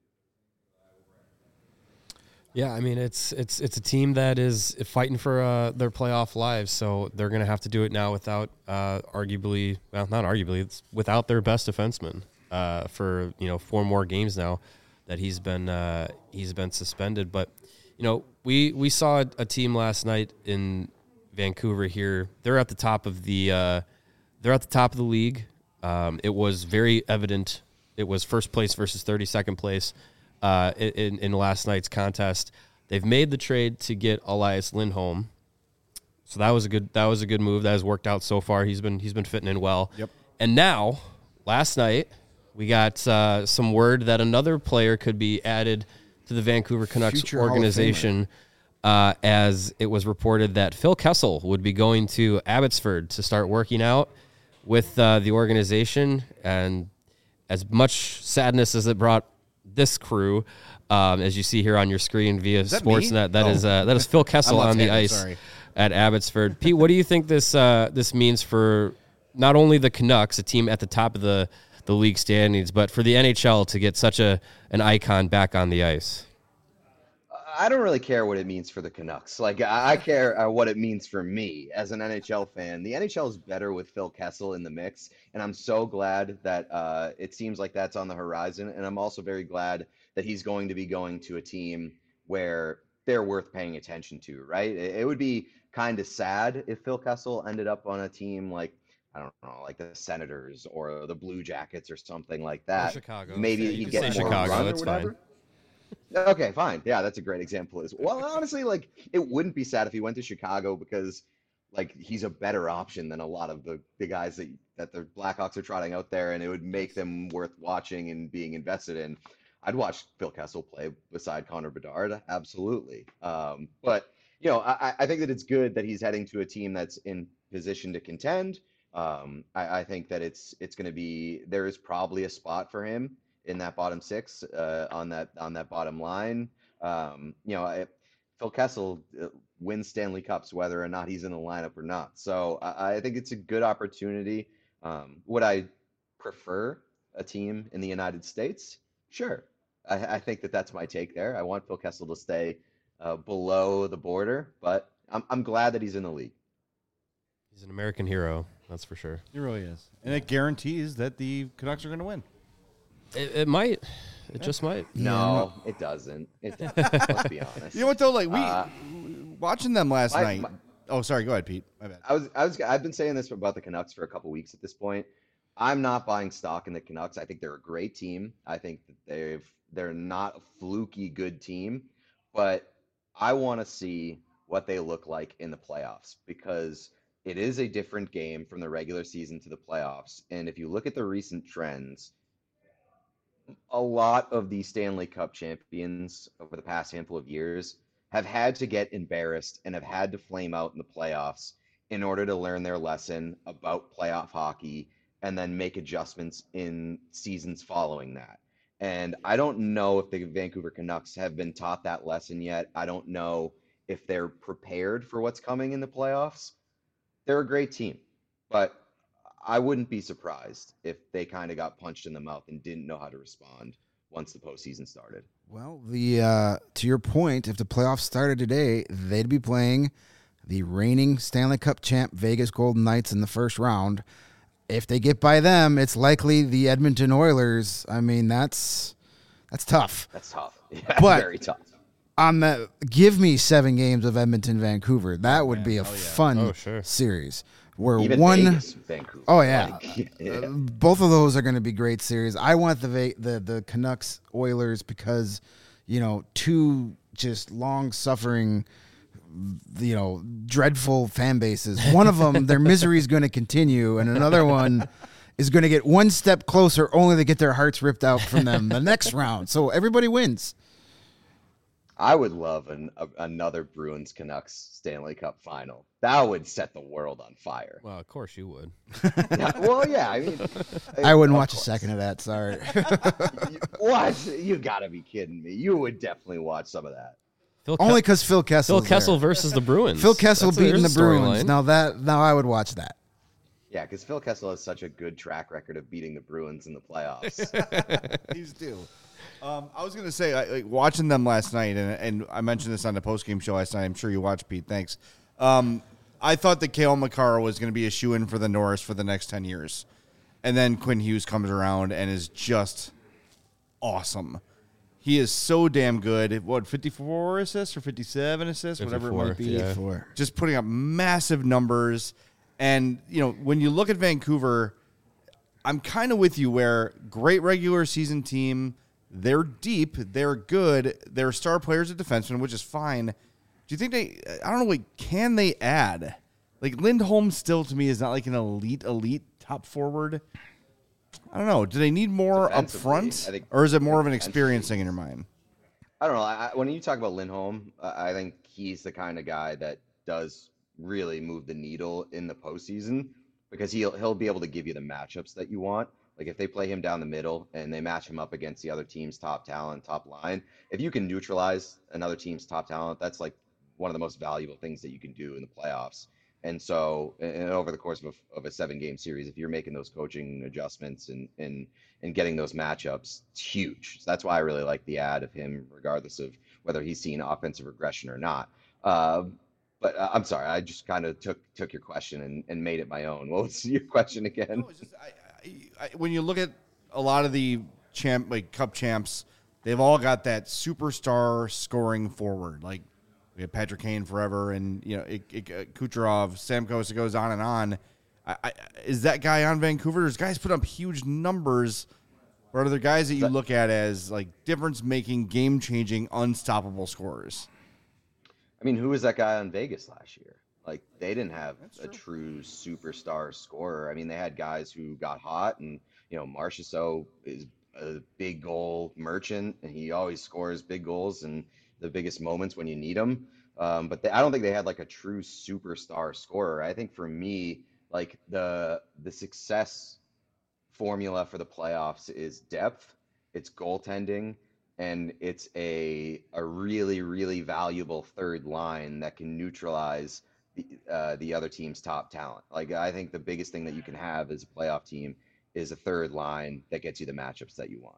Yeah, I mean it's a team that is fighting for their playoff lives, so they're going to have to do it now without it's without their best defenseman for 4 more games now that he's been suspended. But we saw a team last night in Vancouver here. They're at the top of the league. It was very evident. It was first place versus 32nd place. In last night's contest. They've made the trade to get Elias Lindholm. So that was a good move. That has worked out so far. He's been fitting in well. Yep. And now, last night, we got some word that another player could be added to the Vancouver Canucks Future Hall of organization, as it was reported that Phil Kessel would be going to Abbotsford to start working out with the organization. And as much sadness as it brought this crew, as you see here on your screen via Sportsnet, that is Phil Kessel on the ice at Abbotsford. Pete, what do you think this means for not only the Canucks, a team at the top of the league standings, but for the NHL to get such an icon back on the ice? I don't really care what it means for the Canucks. Like, I care what it means for me as an NHL fan. The NHL is better with Phil Kessel in the mix, and I'm so glad that it seems like that's on the horizon. And I'm also very glad that he's going to be going to a team where they're worth paying attention to, right? It would be kind of sad if Phil Kessel ended up on a team like, I don't know, like the Senators or the Blue Jackets or something like that. Or Chicago. Maybe he'd get more Chicago, run or that's whatever. fine. Okay, fine. Yeah, that's a great example. Well, honestly, like, it wouldn't be sad if he went to Chicago because, like, he's a better option than a lot of the guys that the Blackhawks are trotting out there, and it would make them worth watching and being invested in. I'd watch Phil Kessel play beside Connor Bedard, absolutely. But, you know, I think that it's good that he's heading to a team that's in position to contend. I think that it's going to be, there is probably a spot for him in that bottom six, on that bottom line. You know, Phil Kessel wins Stanley Cups whether or not he's in the lineup or not. So I think it's a good opportunity. Would I prefer a team in the United States? Sure. I think that's my take there. I want Phil Kessel to stay below the border, but I'm glad that he's in the league. He's an American hero, that's for sure. He really is. And it guarantees that the Canucks are going to win. It might. It just might. No, it doesn't. Let's be honest. You know what though? Like watching them last night. Oh, sorry. Go ahead, Pete. My bad. I've been saying this about the Canucks for a couple weeks at this point. I'm not buying stock in the Canucks. I think they're a great team. I think that they're not a fluky good team, but I want to see what they look like in the playoffs because it is a different game from the regular season to the playoffs. And if you look at the recent trends, a lot of the Stanley Cup champions over the past handful of years have had to get embarrassed and have had to flame out in the playoffs in order to learn their lesson about playoff hockey and then make adjustments in seasons following that. And I don't know if the Vancouver Canucks have been taught that lesson yet. I don't know if they're prepared for what's coming in the playoffs. They're a great team, but I wouldn't be surprised if they kind of got punched in the mouth and didn't know how to respond once the postseason started. Well, to your point, if the playoffs started today, they'd be playing the reigning Stanley Cup champ Vegas Golden Knights in the first round. If they get by them, it's likely the Edmonton Oilers. I mean, that's tough. That's tough. Yeah, but very tough. Give me 7 games of Edmonton, Vancouver. That would be a fun series. Where even one, Vegas, Vancouver. Oh yeah, both of those are going to be great series. I want the Canucks Oilers because, you know, two just long suffering, you know, dreadful fan bases. One of them, their misery is going to continue, and another one is going to get one step closer, only to get their hearts ripped out from them the next round. So everybody wins. I would love another Bruins Canucks Stanley Cup final. That would set the world on fire. Well, of course you would. Yeah, I mean, I wouldn't watch a second of that. Sorry. What? You got to be kidding me. You would definitely watch some of that. Only because Phil Kessel. Phil Kessel versus the Bruins. Phil Kessel beating the Bruins. Now I would watch that. Yeah, because Phil Kessel has such a good track record of beating the Bruins in the playoffs. He's due. I was going to say, watching them last night, and I mentioned this on the postgame show last night. I'm sure you watched, Pete. Thanks. I thought that Cale Makar was going to be a shoo-in for the Norris for the next 10 years. And then Quinn Hughes comes around and is just awesome. He is so damn good. What, 54 assists or 57 assists? 54, whatever it might be. yeah. Just putting up massive numbers. And, you know, when you look at Vancouver, I'm kind of with you where great regular season team, They're deep. They're good. They're star players at defensemen, which is fine. Do you think I don't know, like, can they add? Like, Lindholm still, to me, is not like an elite top forward. I don't know. Do they need more up front? Or is it more of an experience thing in your mind? I don't know. When you talk about Lindholm, I think he's the kind of guy that does really move the needle in the postseason because he'll be able to give you the matchups that you want. Like if they play him down the middle and they match him up against the other team's top talent, top line, if you can neutralize another team's top talent, that's like one of the most valuable things that you can do in the playoffs. And so, and over the course of a 7-game series, if you're making those coaching adjustments and getting those matchups, it's huge. So that's why I really like the ad of him, regardless of whether he's seen offensive regression or not. But I'm sorry, I just kind of took your question and made it my own. What was your question again? No, it's just, when you look at a lot of the Cup champs, they've all got that superstar scoring forward. Like we have Patrick Kane forever, and Kucherov, Stamkos. It goes on and on. Is that guy on Vancouver? There's guys put up huge numbers. Or are there guys that you look at as like difference-making, game-changing, unstoppable scorers? I mean, who was that guy on Vegas last year? Like, they didn't have a true superstar scorer. I mean, they had guys who got hot, and, Marchessault is a big goal merchant, and he always scores big goals in the biggest moments when you need them. But I don't think they had, like, a true superstar scorer. I think for me, like, the success formula for the playoffs is depth, it's goaltending, and it's a really, really valuable third line that can neutralize the other team's top talent. Like, I think the biggest thing that you can have as a playoff team is a third line that gets you the matchups that you want.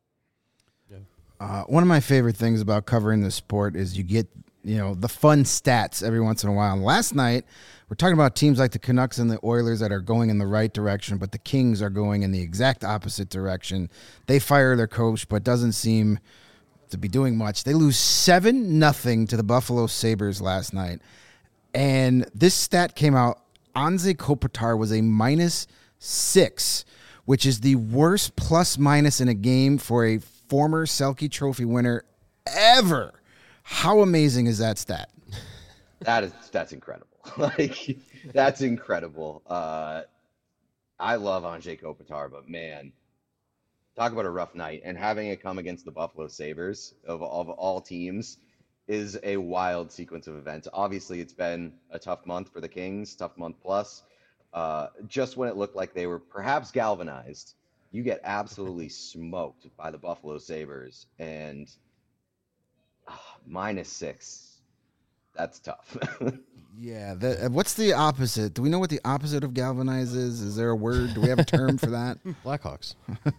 Yeah. One of my favorite things about covering the sport is you get, the fun stats every once in a while. And last night, we're talking about teams like the Canucks and the Oilers that are going in the right direction, but the Kings are going in the exact opposite direction. They fire their coach, but doesn't seem to be doing much. They lose 7-0 to the Buffalo Sabres last night. And this stat came out. Anze Kopitar was a -6, which is the worst plus-minus in a game for a former Selke Trophy winner ever. How amazing is that stat? That's incredible. Like, that's incredible. I love Anze Kopitar, but man, talk about a rough night. And having it come against the Buffalo Sabres of all teams is a wild sequence of events. Obviously, it's been a tough month for the Kings, tough month plus. Just when it looked like they were perhaps galvanized, you get absolutely smoked by the Buffalo Sabres, and -6. That's tough. Yeah. What's the opposite? Do we know what the opposite of galvanize is? Is there a word? Do we have a term for that? Blackhawks.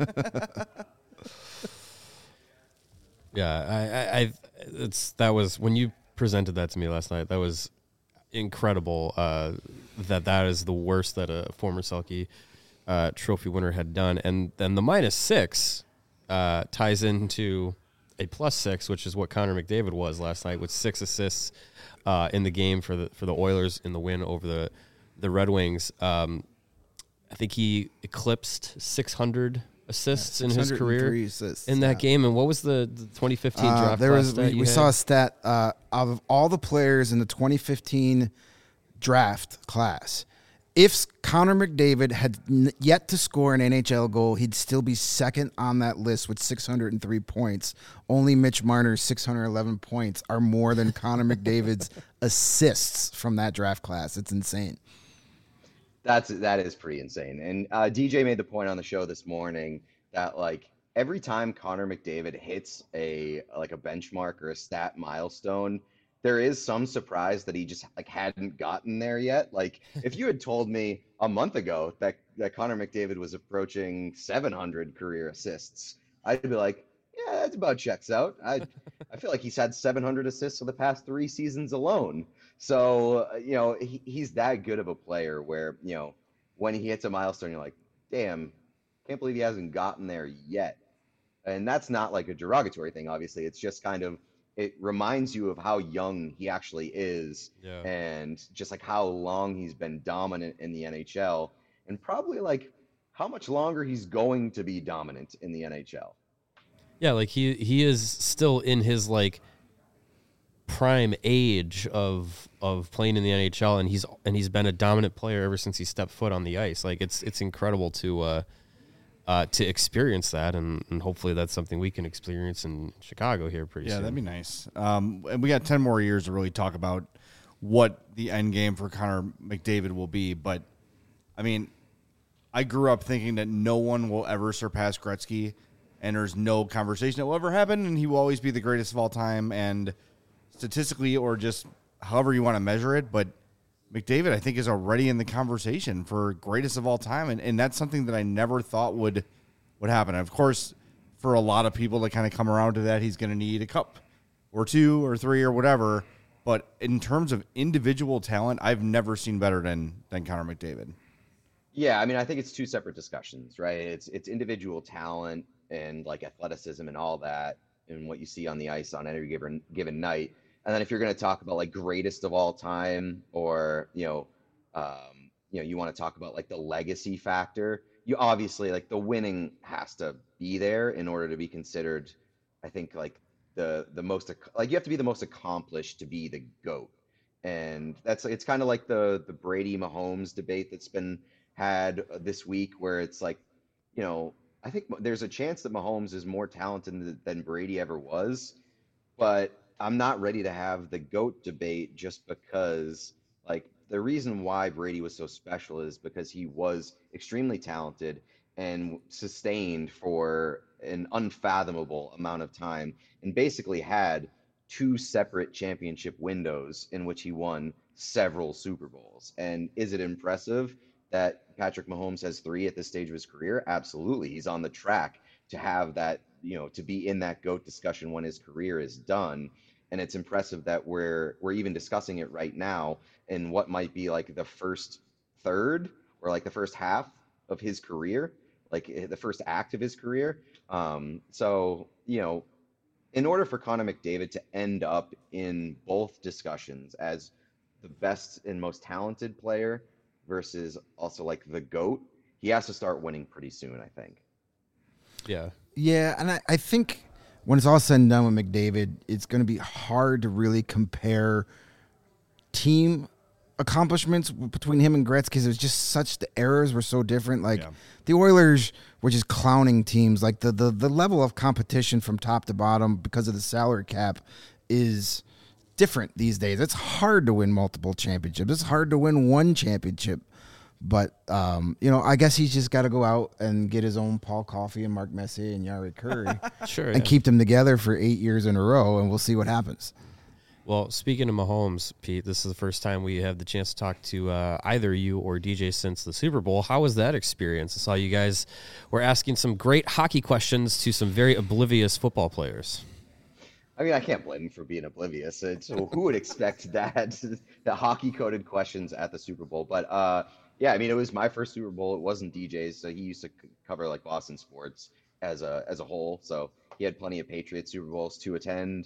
Yeah, that was when you presented that to me last night. That was incredible. That is the worst that a former Selke Trophy winner had done, and then the -6 ties into a +6, which is what Connor McDavid was last night with 6 assists in the game for the Oilers in the win over the Red Wings. I think he eclipsed 600 assists in his career in that game. And what was the 2015 draft class we saw a stat of all the players in the 2015 draft class. If Connor McDavid had yet to score an NHL goal, he'd still be second on that list with 603 points. Only Mitch Marner's 611 points are more than Connor McDavid's assists from that draft class. It's insane. That is pretty insane. And DJ made the point on the show this morning that, like, every time Connor McDavid hits a benchmark or a stat milestone, there is some surprise that he just hadn't gotten there yet. Like, if you had told me a month ago that Connor McDavid was approaching 700 career assists, I'd be like, yeah, that's about checks out. I feel like he's had 700 assists for the past 3 seasons alone. So, he's that good of a player where, when he hits a milestone, you're like, damn, can't believe he hasn't gotten there yet. And that's not like a derogatory thing, obviously. It's just kind of, it reminds you of how young he actually is, and just like how long he's been dominant in the NHL, and probably like how much longer he's going to be dominant in the NHL. Yeah, like he is still in his like prime age of playing in the NHL, and he's been a dominant player ever since he stepped foot on the ice. Like it's incredible to experience that, and hopefully that's something we can experience in Chicago here pretty soon. Yeah, that'd be nice. And we got 10 more years to really talk about what the end game for Connor McDavid will be. But I mean, I grew up thinking that no one will ever surpass Gretzky, and there's no conversation that will ever happen, and he will always be the greatest of all time. And statistically, or just however you want to measure it, but McDavid, I think, is already in the conversation for greatest of all time, and that's something that I never thought would happen. Of course, for a lot of people to kind of come around to that, he's going to need a cup or two or three or whatever. But in terms of individual talent, I've never seen better than Connor McDavid. Yeah, I mean, I think it's two separate discussions, right? It's individual talent and like athleticism and all that, and what you see on the ice on any given night. And then if you're going to talk about like greatest of all time, or you want to talk about like the legacy factor, you obviously like the winning has to be there in order to be considered. I think like the most, like you have to be the most accomplished to be the GOAT, and it's kind of like the Brady Mahomes debate that's been had this week, where it's like, I think there's a chance that Mahomes is more talented than Brady ever was, but I'm not ready to have the GOAT debate just because, like, the reason why Brady was so special is because he was extremely talented and sustained for an unfathomable amount of time, and basically had two separate championship windows in which he won several Super Bowls. And is it impressive that Patrick Mahomes has 3 at this stage of his career? Absolutely. He's on the track to have that, to be in that GOAT discussion when his career is done. And it's impressive that we're even discussing it right now in what might be like the first third or like the first half of his career, like the first act of his career. So, in order for Connor McDavid to end up in both discussions as the best and most talented player versus also like the GOAT, he has to start winning pretty soon, I think. Yeah. Yeah, and I think when it's all said and done with McDavid, it's going to be hard to really compare team accomplishments between him and Gretzky, because it was just such, the eras were so different. Like the Oilers were just clowning teams. Like the level of competition from top to bottom because of the salary cap is different these days. It's hard to win multiple championships. It's hard to win one championship. But, I guess he's just got to go out and get his own Paul Coffey and Mark Messier and Yari Curry and keep them together for 8 years in a row, and we'll see what happens. Well, speaking of Mahomes, Pete, this is the first time we have the chance to talk to either you or DJ since the Super Bowl. How was that experience? I saw you guys were asking some great hockey questions to some very oblivious football players. I mean, I can't blame him for being oblivious. So who would expect that, the hockey-coded questions at the Super Bowl? But, yeah, I mean, it was my first Super Bowl. It wasn't DJ's, so he used to cover like Boston sports as a whole. So he had plenty of Patriots Super Bowls to attend.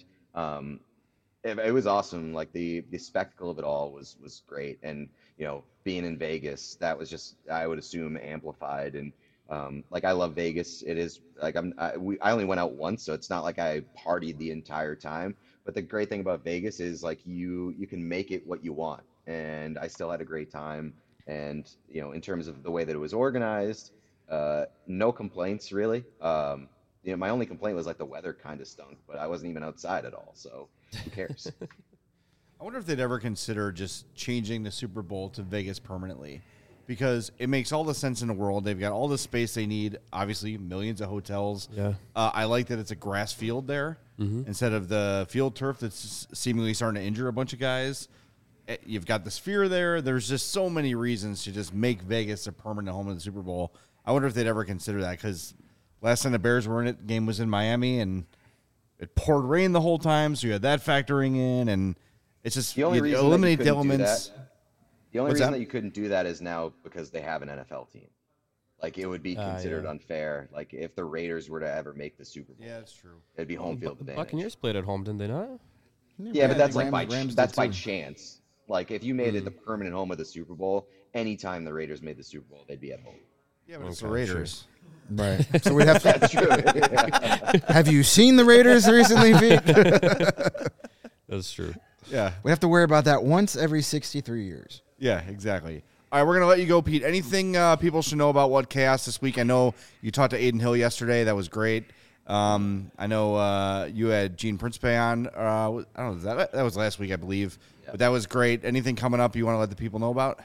It was awesome. Like the spectacle of it all was great. And being in Vegas, that was just, I would assume, amplified. And like I love Vegas. It is like I only went out once, so it's not like I partied the entire time. But the great thing about Vegas is like you can make it what you want. And I still had a great time. And, in terms of the way that it was organized, no complaints really. My only complaint was like the weather kind of stunk, but I wasn't even outside at all. So who cares? I wonder if they'd ever consider just changing the Super Bowl to Vegas permanently, because it makes all the sense in the world. They've got all the space they need, obviously millions of hotels. Yeah. I like that it's a grass field there instead of the field turf that's seemingly starting to injure a bunch of guys. You've got the Sphere there. There's just so many reasons to just make Vegas a permanent home of the Super Bowl. I wonder if they'd ever consider that, because last time the Bears were in it, the game was in Miami, and it poured rain the whole time, so you had that factoring in, and it's just the only reason eliminate the elements. The only reason that you couldn't do that is now because they have an NFL team. Like, it would be considered unfair. Like, if the Raiders were to ever make the Super Bowl. Yeah, that's true. It'd be home field advantage. Buccaneers played at home, didn't they not? Yeah, but that's like by chance. Like, if you made it the permanent home of the Super Bowl, anytime the Raiders made the Super Bowl, they'd be at home. Yeah, but it's the Raiders. Right. So we'd have That's true. Have you seen the Raiders recently, Pete? That's true. Yeah. We have to worry about that once every 63 years. Yeah, exactly. All right, we're going to let you go, Pete. Anything people should know about What Chaos this week? I know you talked to Aiden Hill yesterday. That was great. I know you had Gene Principe on. I don't know. That was last week, I believe. Yep. But that was great. Anything coming up you want to let the people know about?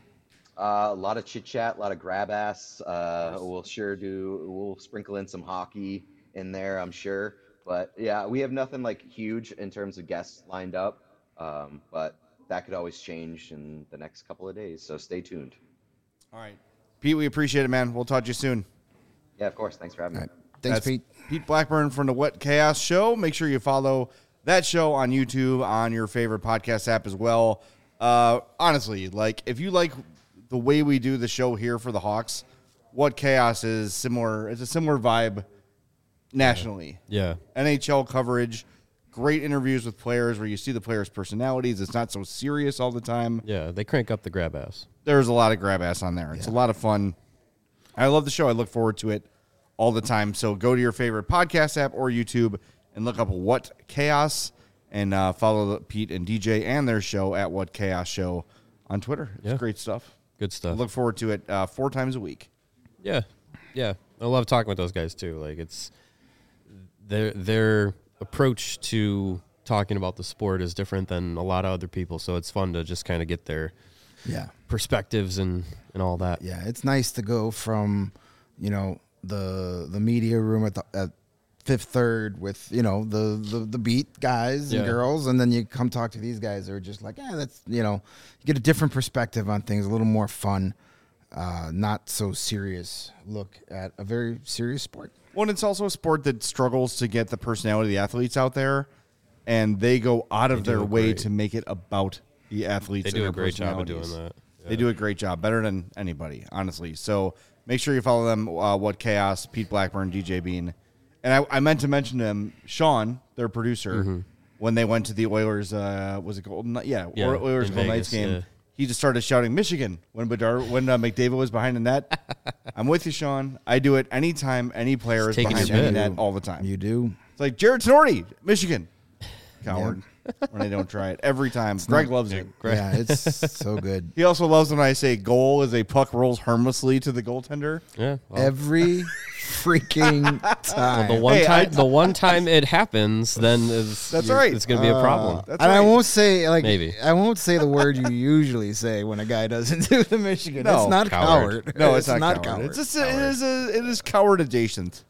A lot of chit chat, a lot of grab ass. We'll sprinkle in some hockey in there, I'm sure. But yeah, we have nothing like huge in terms of guests lined up. But that could always change in the next couple of days. So stay tuned. All right, Pete, we appreciate it, man. We'll talk to you soon. Yeah, of course. Thanks for having me. Right. Thanks, Pete. Pete Blackburn from the What Chaos Show. Make sure you follow that show on YouTube, on your favorite podcast app as well. Honestly, like if you like the way we do the show here for the Hawks, What Chaos is similar. It's a similar vibe nationally. Yeah. NHL coverage, great interviews with players where you see the players' personalities. It's not so serious all the time. Yeah, they crank up the grab ass. There's a lot of grab ass on there. It's a lot of fun. I love the show. I look forward to it all the time. So go to your favorite podcast app or YouTube and look up What Chaos and follow Pete and DJ and their show at What Chaos Show on Twitter. It's great stuff. Good stuff. I look forward to it 4 times a week. Yeah. Yeah. I love talking with those guys too. Like it's their approach to talking about the sport is different than a lot of other people. So it's fun to just kind of get their perspectives and all that. Yeah. It's nice to go from, the media room at Fifth Third with, the beat guys and girls. And then you come talk to these guys who are just like, that's, you get a different perspective on things, a little more fun, not so serious look at a very serious sport. Well, and it's also a sport that struggles to get the personality of the athletes out there, and they go out of their way to make it about the athletes. They do a great job of doing that. They do a great job, better than anybody, honestly. So make sure you follow them, What Chaos, Pete Blackburn, DJ Bean. And I meant to mention to him, Sean, their producer, when they went to the Oilers, was it Golden Knights? Yeah, Oilers Golden Knights game. Yeah. He just started shouting Michigan when McDavid was behind the net. I'm with you, Sean. I do it anytime any player is behind the net all the time. You do. It's like Jared Snorty, Michigan. Coward. When I don't try it every time. Greg loves it. Yeah, it's so good. He also loves when I say goal as a puck rolls harmlessly to the goaltender. Yeah, every freaking time. Well, the one time it happens, then that's right. It's going to be a problem. And right. I won't say I won't say the word you usually say when a guy doesn't do the Michigan. No, it's not coward. No, it's not coward. It's just, it is coward adjacent.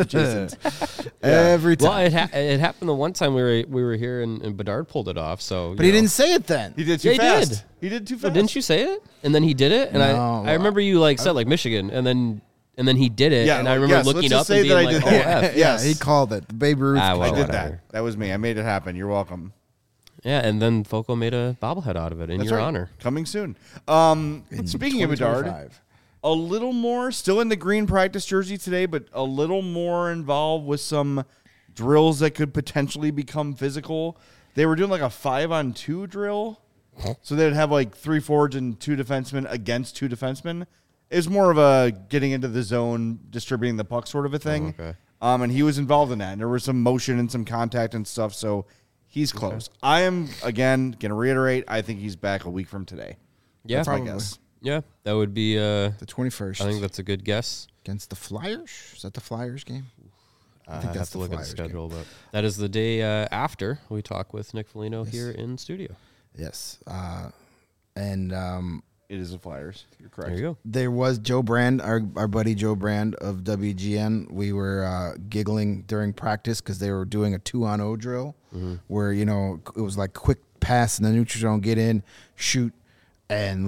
Every time. Well, it happened the one time we were here and Bedard pulled it off. So, but he didn't say it then. He did too fast. He did too fast. Oh, didn't you say it? And then he did it. And I remember you said Michigan, and then he did it. Yeah, and I remember looking up and being like, yeah, he called it. Babe Ruth. I did that. That was me. I made it happen. You're welcome. Yeah, and then Foco made a bobblehead out of it in your honor. Coming soon. Speaking of Bedard, a little more, still in the green practice jersey today, but a little more involved with some drills that could potentially become physical. They were doing like a 5-on-2 drill. So they'd have like 3 forwards and 2 defensemen against 2 defensemen. It's more of a getting into the zone, distributing the puck sort of a thing. Oh, okay. And he was involved in that. And there was some motion and some contact and stuff. So he's close. Okay. I am, again, going to reiterate, I think he's back a week from today. Yeah. That's my guess. Yeah, that would be the 21st. I think that's a good guess. Against the Flyers? Is that the Flyers game? I think that's have to look at the schedule, but that is the day after we talk with Nick Foligno here in studio. Yes. It is the Flyers. You're correct. There you go. There was Joe Brand, our buddy Joe Brand of WGN. We were giggling during practice because they were doing a 2-on-0 drill where, it was like quick pass in the neutral zone, get in, shoot, and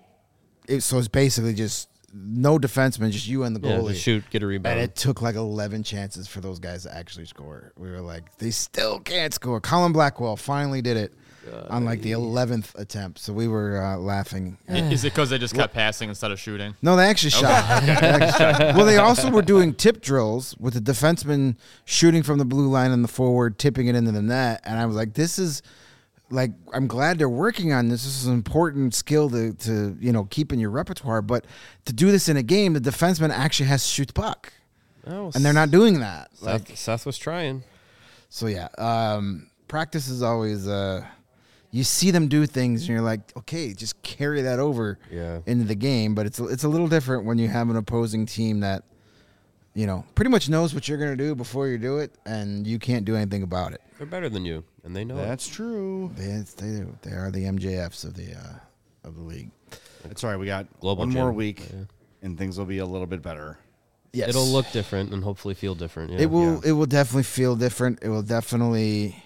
so it's basically just no defenseman, just you and the goalie. Yeah, just shoot, get a rebound. And it took like 11 chances for those guys to actually score. We were like, they still can't score. Colin Blackwell finally did it on like the 11th attempt. So we were laughing. Is it because they just kept passing instead of shooting? No, they actually shot. Well, they also were doing tip drills with the defenseman shooting from the blue line and the forward, tipping it into the net. And I was like, this is like, I'm glad they're working on this. This is an important skill to keep in your repertoire. But to do this in a game, the defenseman actually has to shoot the puck. Oh, and they're not doing that. Seth was trying. So, yeah, practice is always you see them do things, and you're like, okay, just carry that over into the game. But it's a little different when you have an opposing team that, pretty much knows what you're going to do before you do it, and you can't do anything about it. They're better than you, and they know That's true. They do. They are the MJFs of the league. It's all right. We got Global one more Gym. week, and things will be a little bit better. Yes. It'll look different and hopefully feel different. Yeah. It will. It will definitely feel different. It will definitely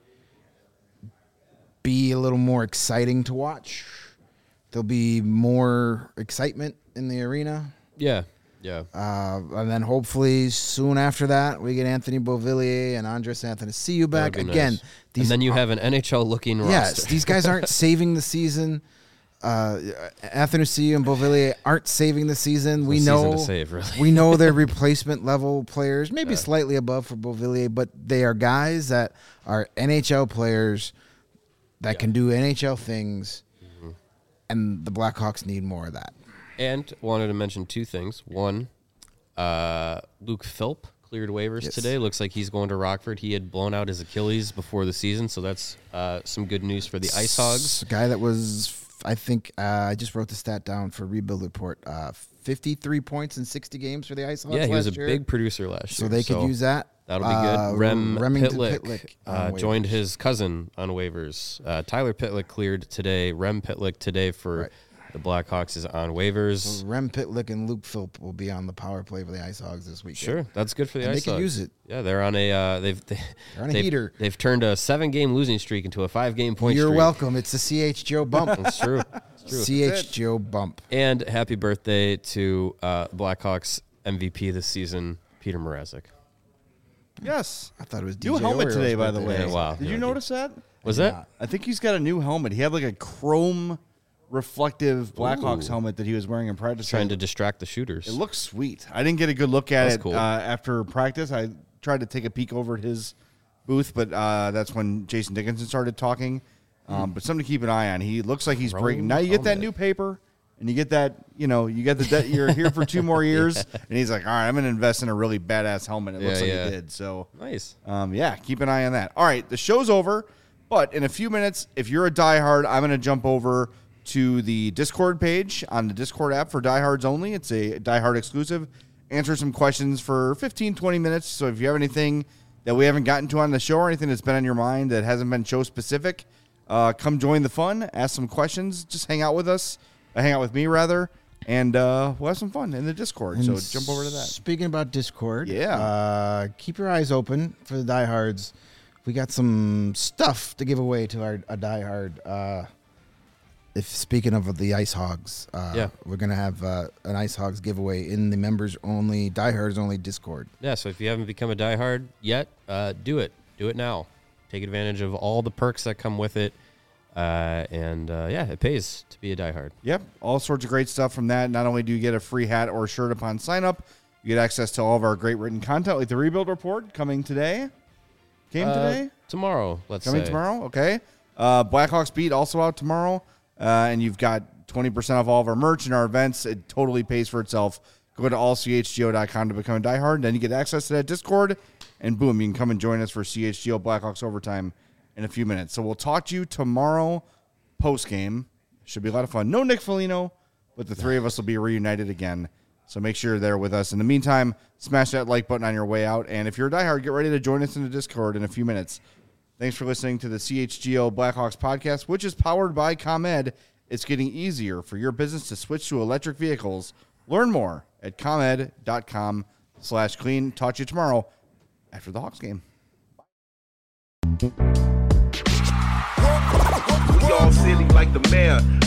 be a little more exciting to watch. There'll be more excitement in the arena. Yeah. And then hopefully soon after that, we get Anthony Beauvillier and Andres Athanasiou back That'd be again. nice. And then you have an NHL-looking roster. Yes, these guys aren't saving the season. Athanasiou and Beauvillier aren't saving the season. We season know to save, really. we know they're replacement level players, maybe slightly above for Beauvillier, but they are guys that are NHL players that can do NHL things, and the Blackhawks need more of that. And wanted to mention two things. One, Luke Philp cleared waivers today. Looks like he's going to Rockford. He had blown out his Achilles before the season, so that's some good news for the Ice Hogs. A guy that was, I think, I just wrote the stat down for Rebuild Report, 53 points in 60 games for the Ice Hogs. Yeah, he was a last year. big producer last year. So they could use that. That'll be good. Remington Pitlick joined his cousin on waivers. Tyler Pitlick cleared today. Rem Pitlick today for the Blackhawks is on waivers. So Rem Pitlick and Luke Philp will be on the power play for the Ice Hogs this week. Sure, that's good for the Ice Hogs. They can use it. Yeah, they're on a they're on a heater. They've turned a 7-game losing streak into a 5-game point streak. You're welcome. It's the CH Joe bump. That's true. CH Joe bump. And happy birthday to Blackhawks MVP this season, Peter Mrazek. Yes. I thought it was new DJ helmet Oreo's today, by the birthday. way. Yeah, wow. Did you notice that? Was that? I think he's got a new helmet. He had like a chrome reflective Blackhawks helmet that he was wearing in practice. Trying to distract the shooters. It looks sweet. I didn't get a good look at That's it cool. After practice. I tried to take a peek over at his booth, but that's when Jason Dickinson started talking. But something to keep an eye on. He looks like he's breaking. Now you get that new paper, and you get that, you get the you're here for 2 more years. And he's like, all right, I'm going to invest in a really badass helmet. It looks like he did. So nice. Keep an eye on that. All right, the show's over, but in a few minutes, if you're a diehard, I'm going to jump over to the Discord page on the Discord app for diehards only. It's a diehard exclusive. Answer some questions for 15, 20 minutes. So if you have anything that we haven't gotten to on the show or anything that's been on your mind that hasn't been show specific, come join the fun, ask some questions, just hang out with us, hang out with me rather, and we'll have some fun in the Discord. So jump over to that. Speaking about Discord, keep your eyes open for the diehards. We got some stuff to give away to our diehard. If speaking of the Ice Hogs, we're gonna have an Ice Hogs giveaway in the members only, diehards only Discord. Yeah, so if you haven't become a diehard yet, do it. Do it now. Take advantage of all the perks that come with it. It pays to be a diehard. Yep, all sorts of great stuff from that. Not only do you get a free hat or shirt upon sign up, you get access to all of our great written content, like the Rebuild Report coming today. Tomorrow, let's coming say. tomorrow, okay. Blackhawks Beat also out tomorrow, and you've got 20% off all of our merch and our events. It totally pays for itself. Go to allchgo.com to become a diehard, then you get access to that Discord, and boom, you can come and join us for CHGO Blackhawks Overtime in a few minutes. So we'll talk to you tomorrow post-game. Should be a lot of fun. No Nick Foligno, but the three of us will be reunited again. So make sure you're there with us. In the meantime, smash that like button on your way out. And if you're a diehard, get ready to join us in the Discord in a few minutes. Thanks for listening to the CHGO Blackhawks podcast, which is powered by ComEd. It's getting easier for your business to switch to electric vehicles. Learn more at comed.com/clean. Talk to you tomorrow after the Hawks game. We all silly like the mayor.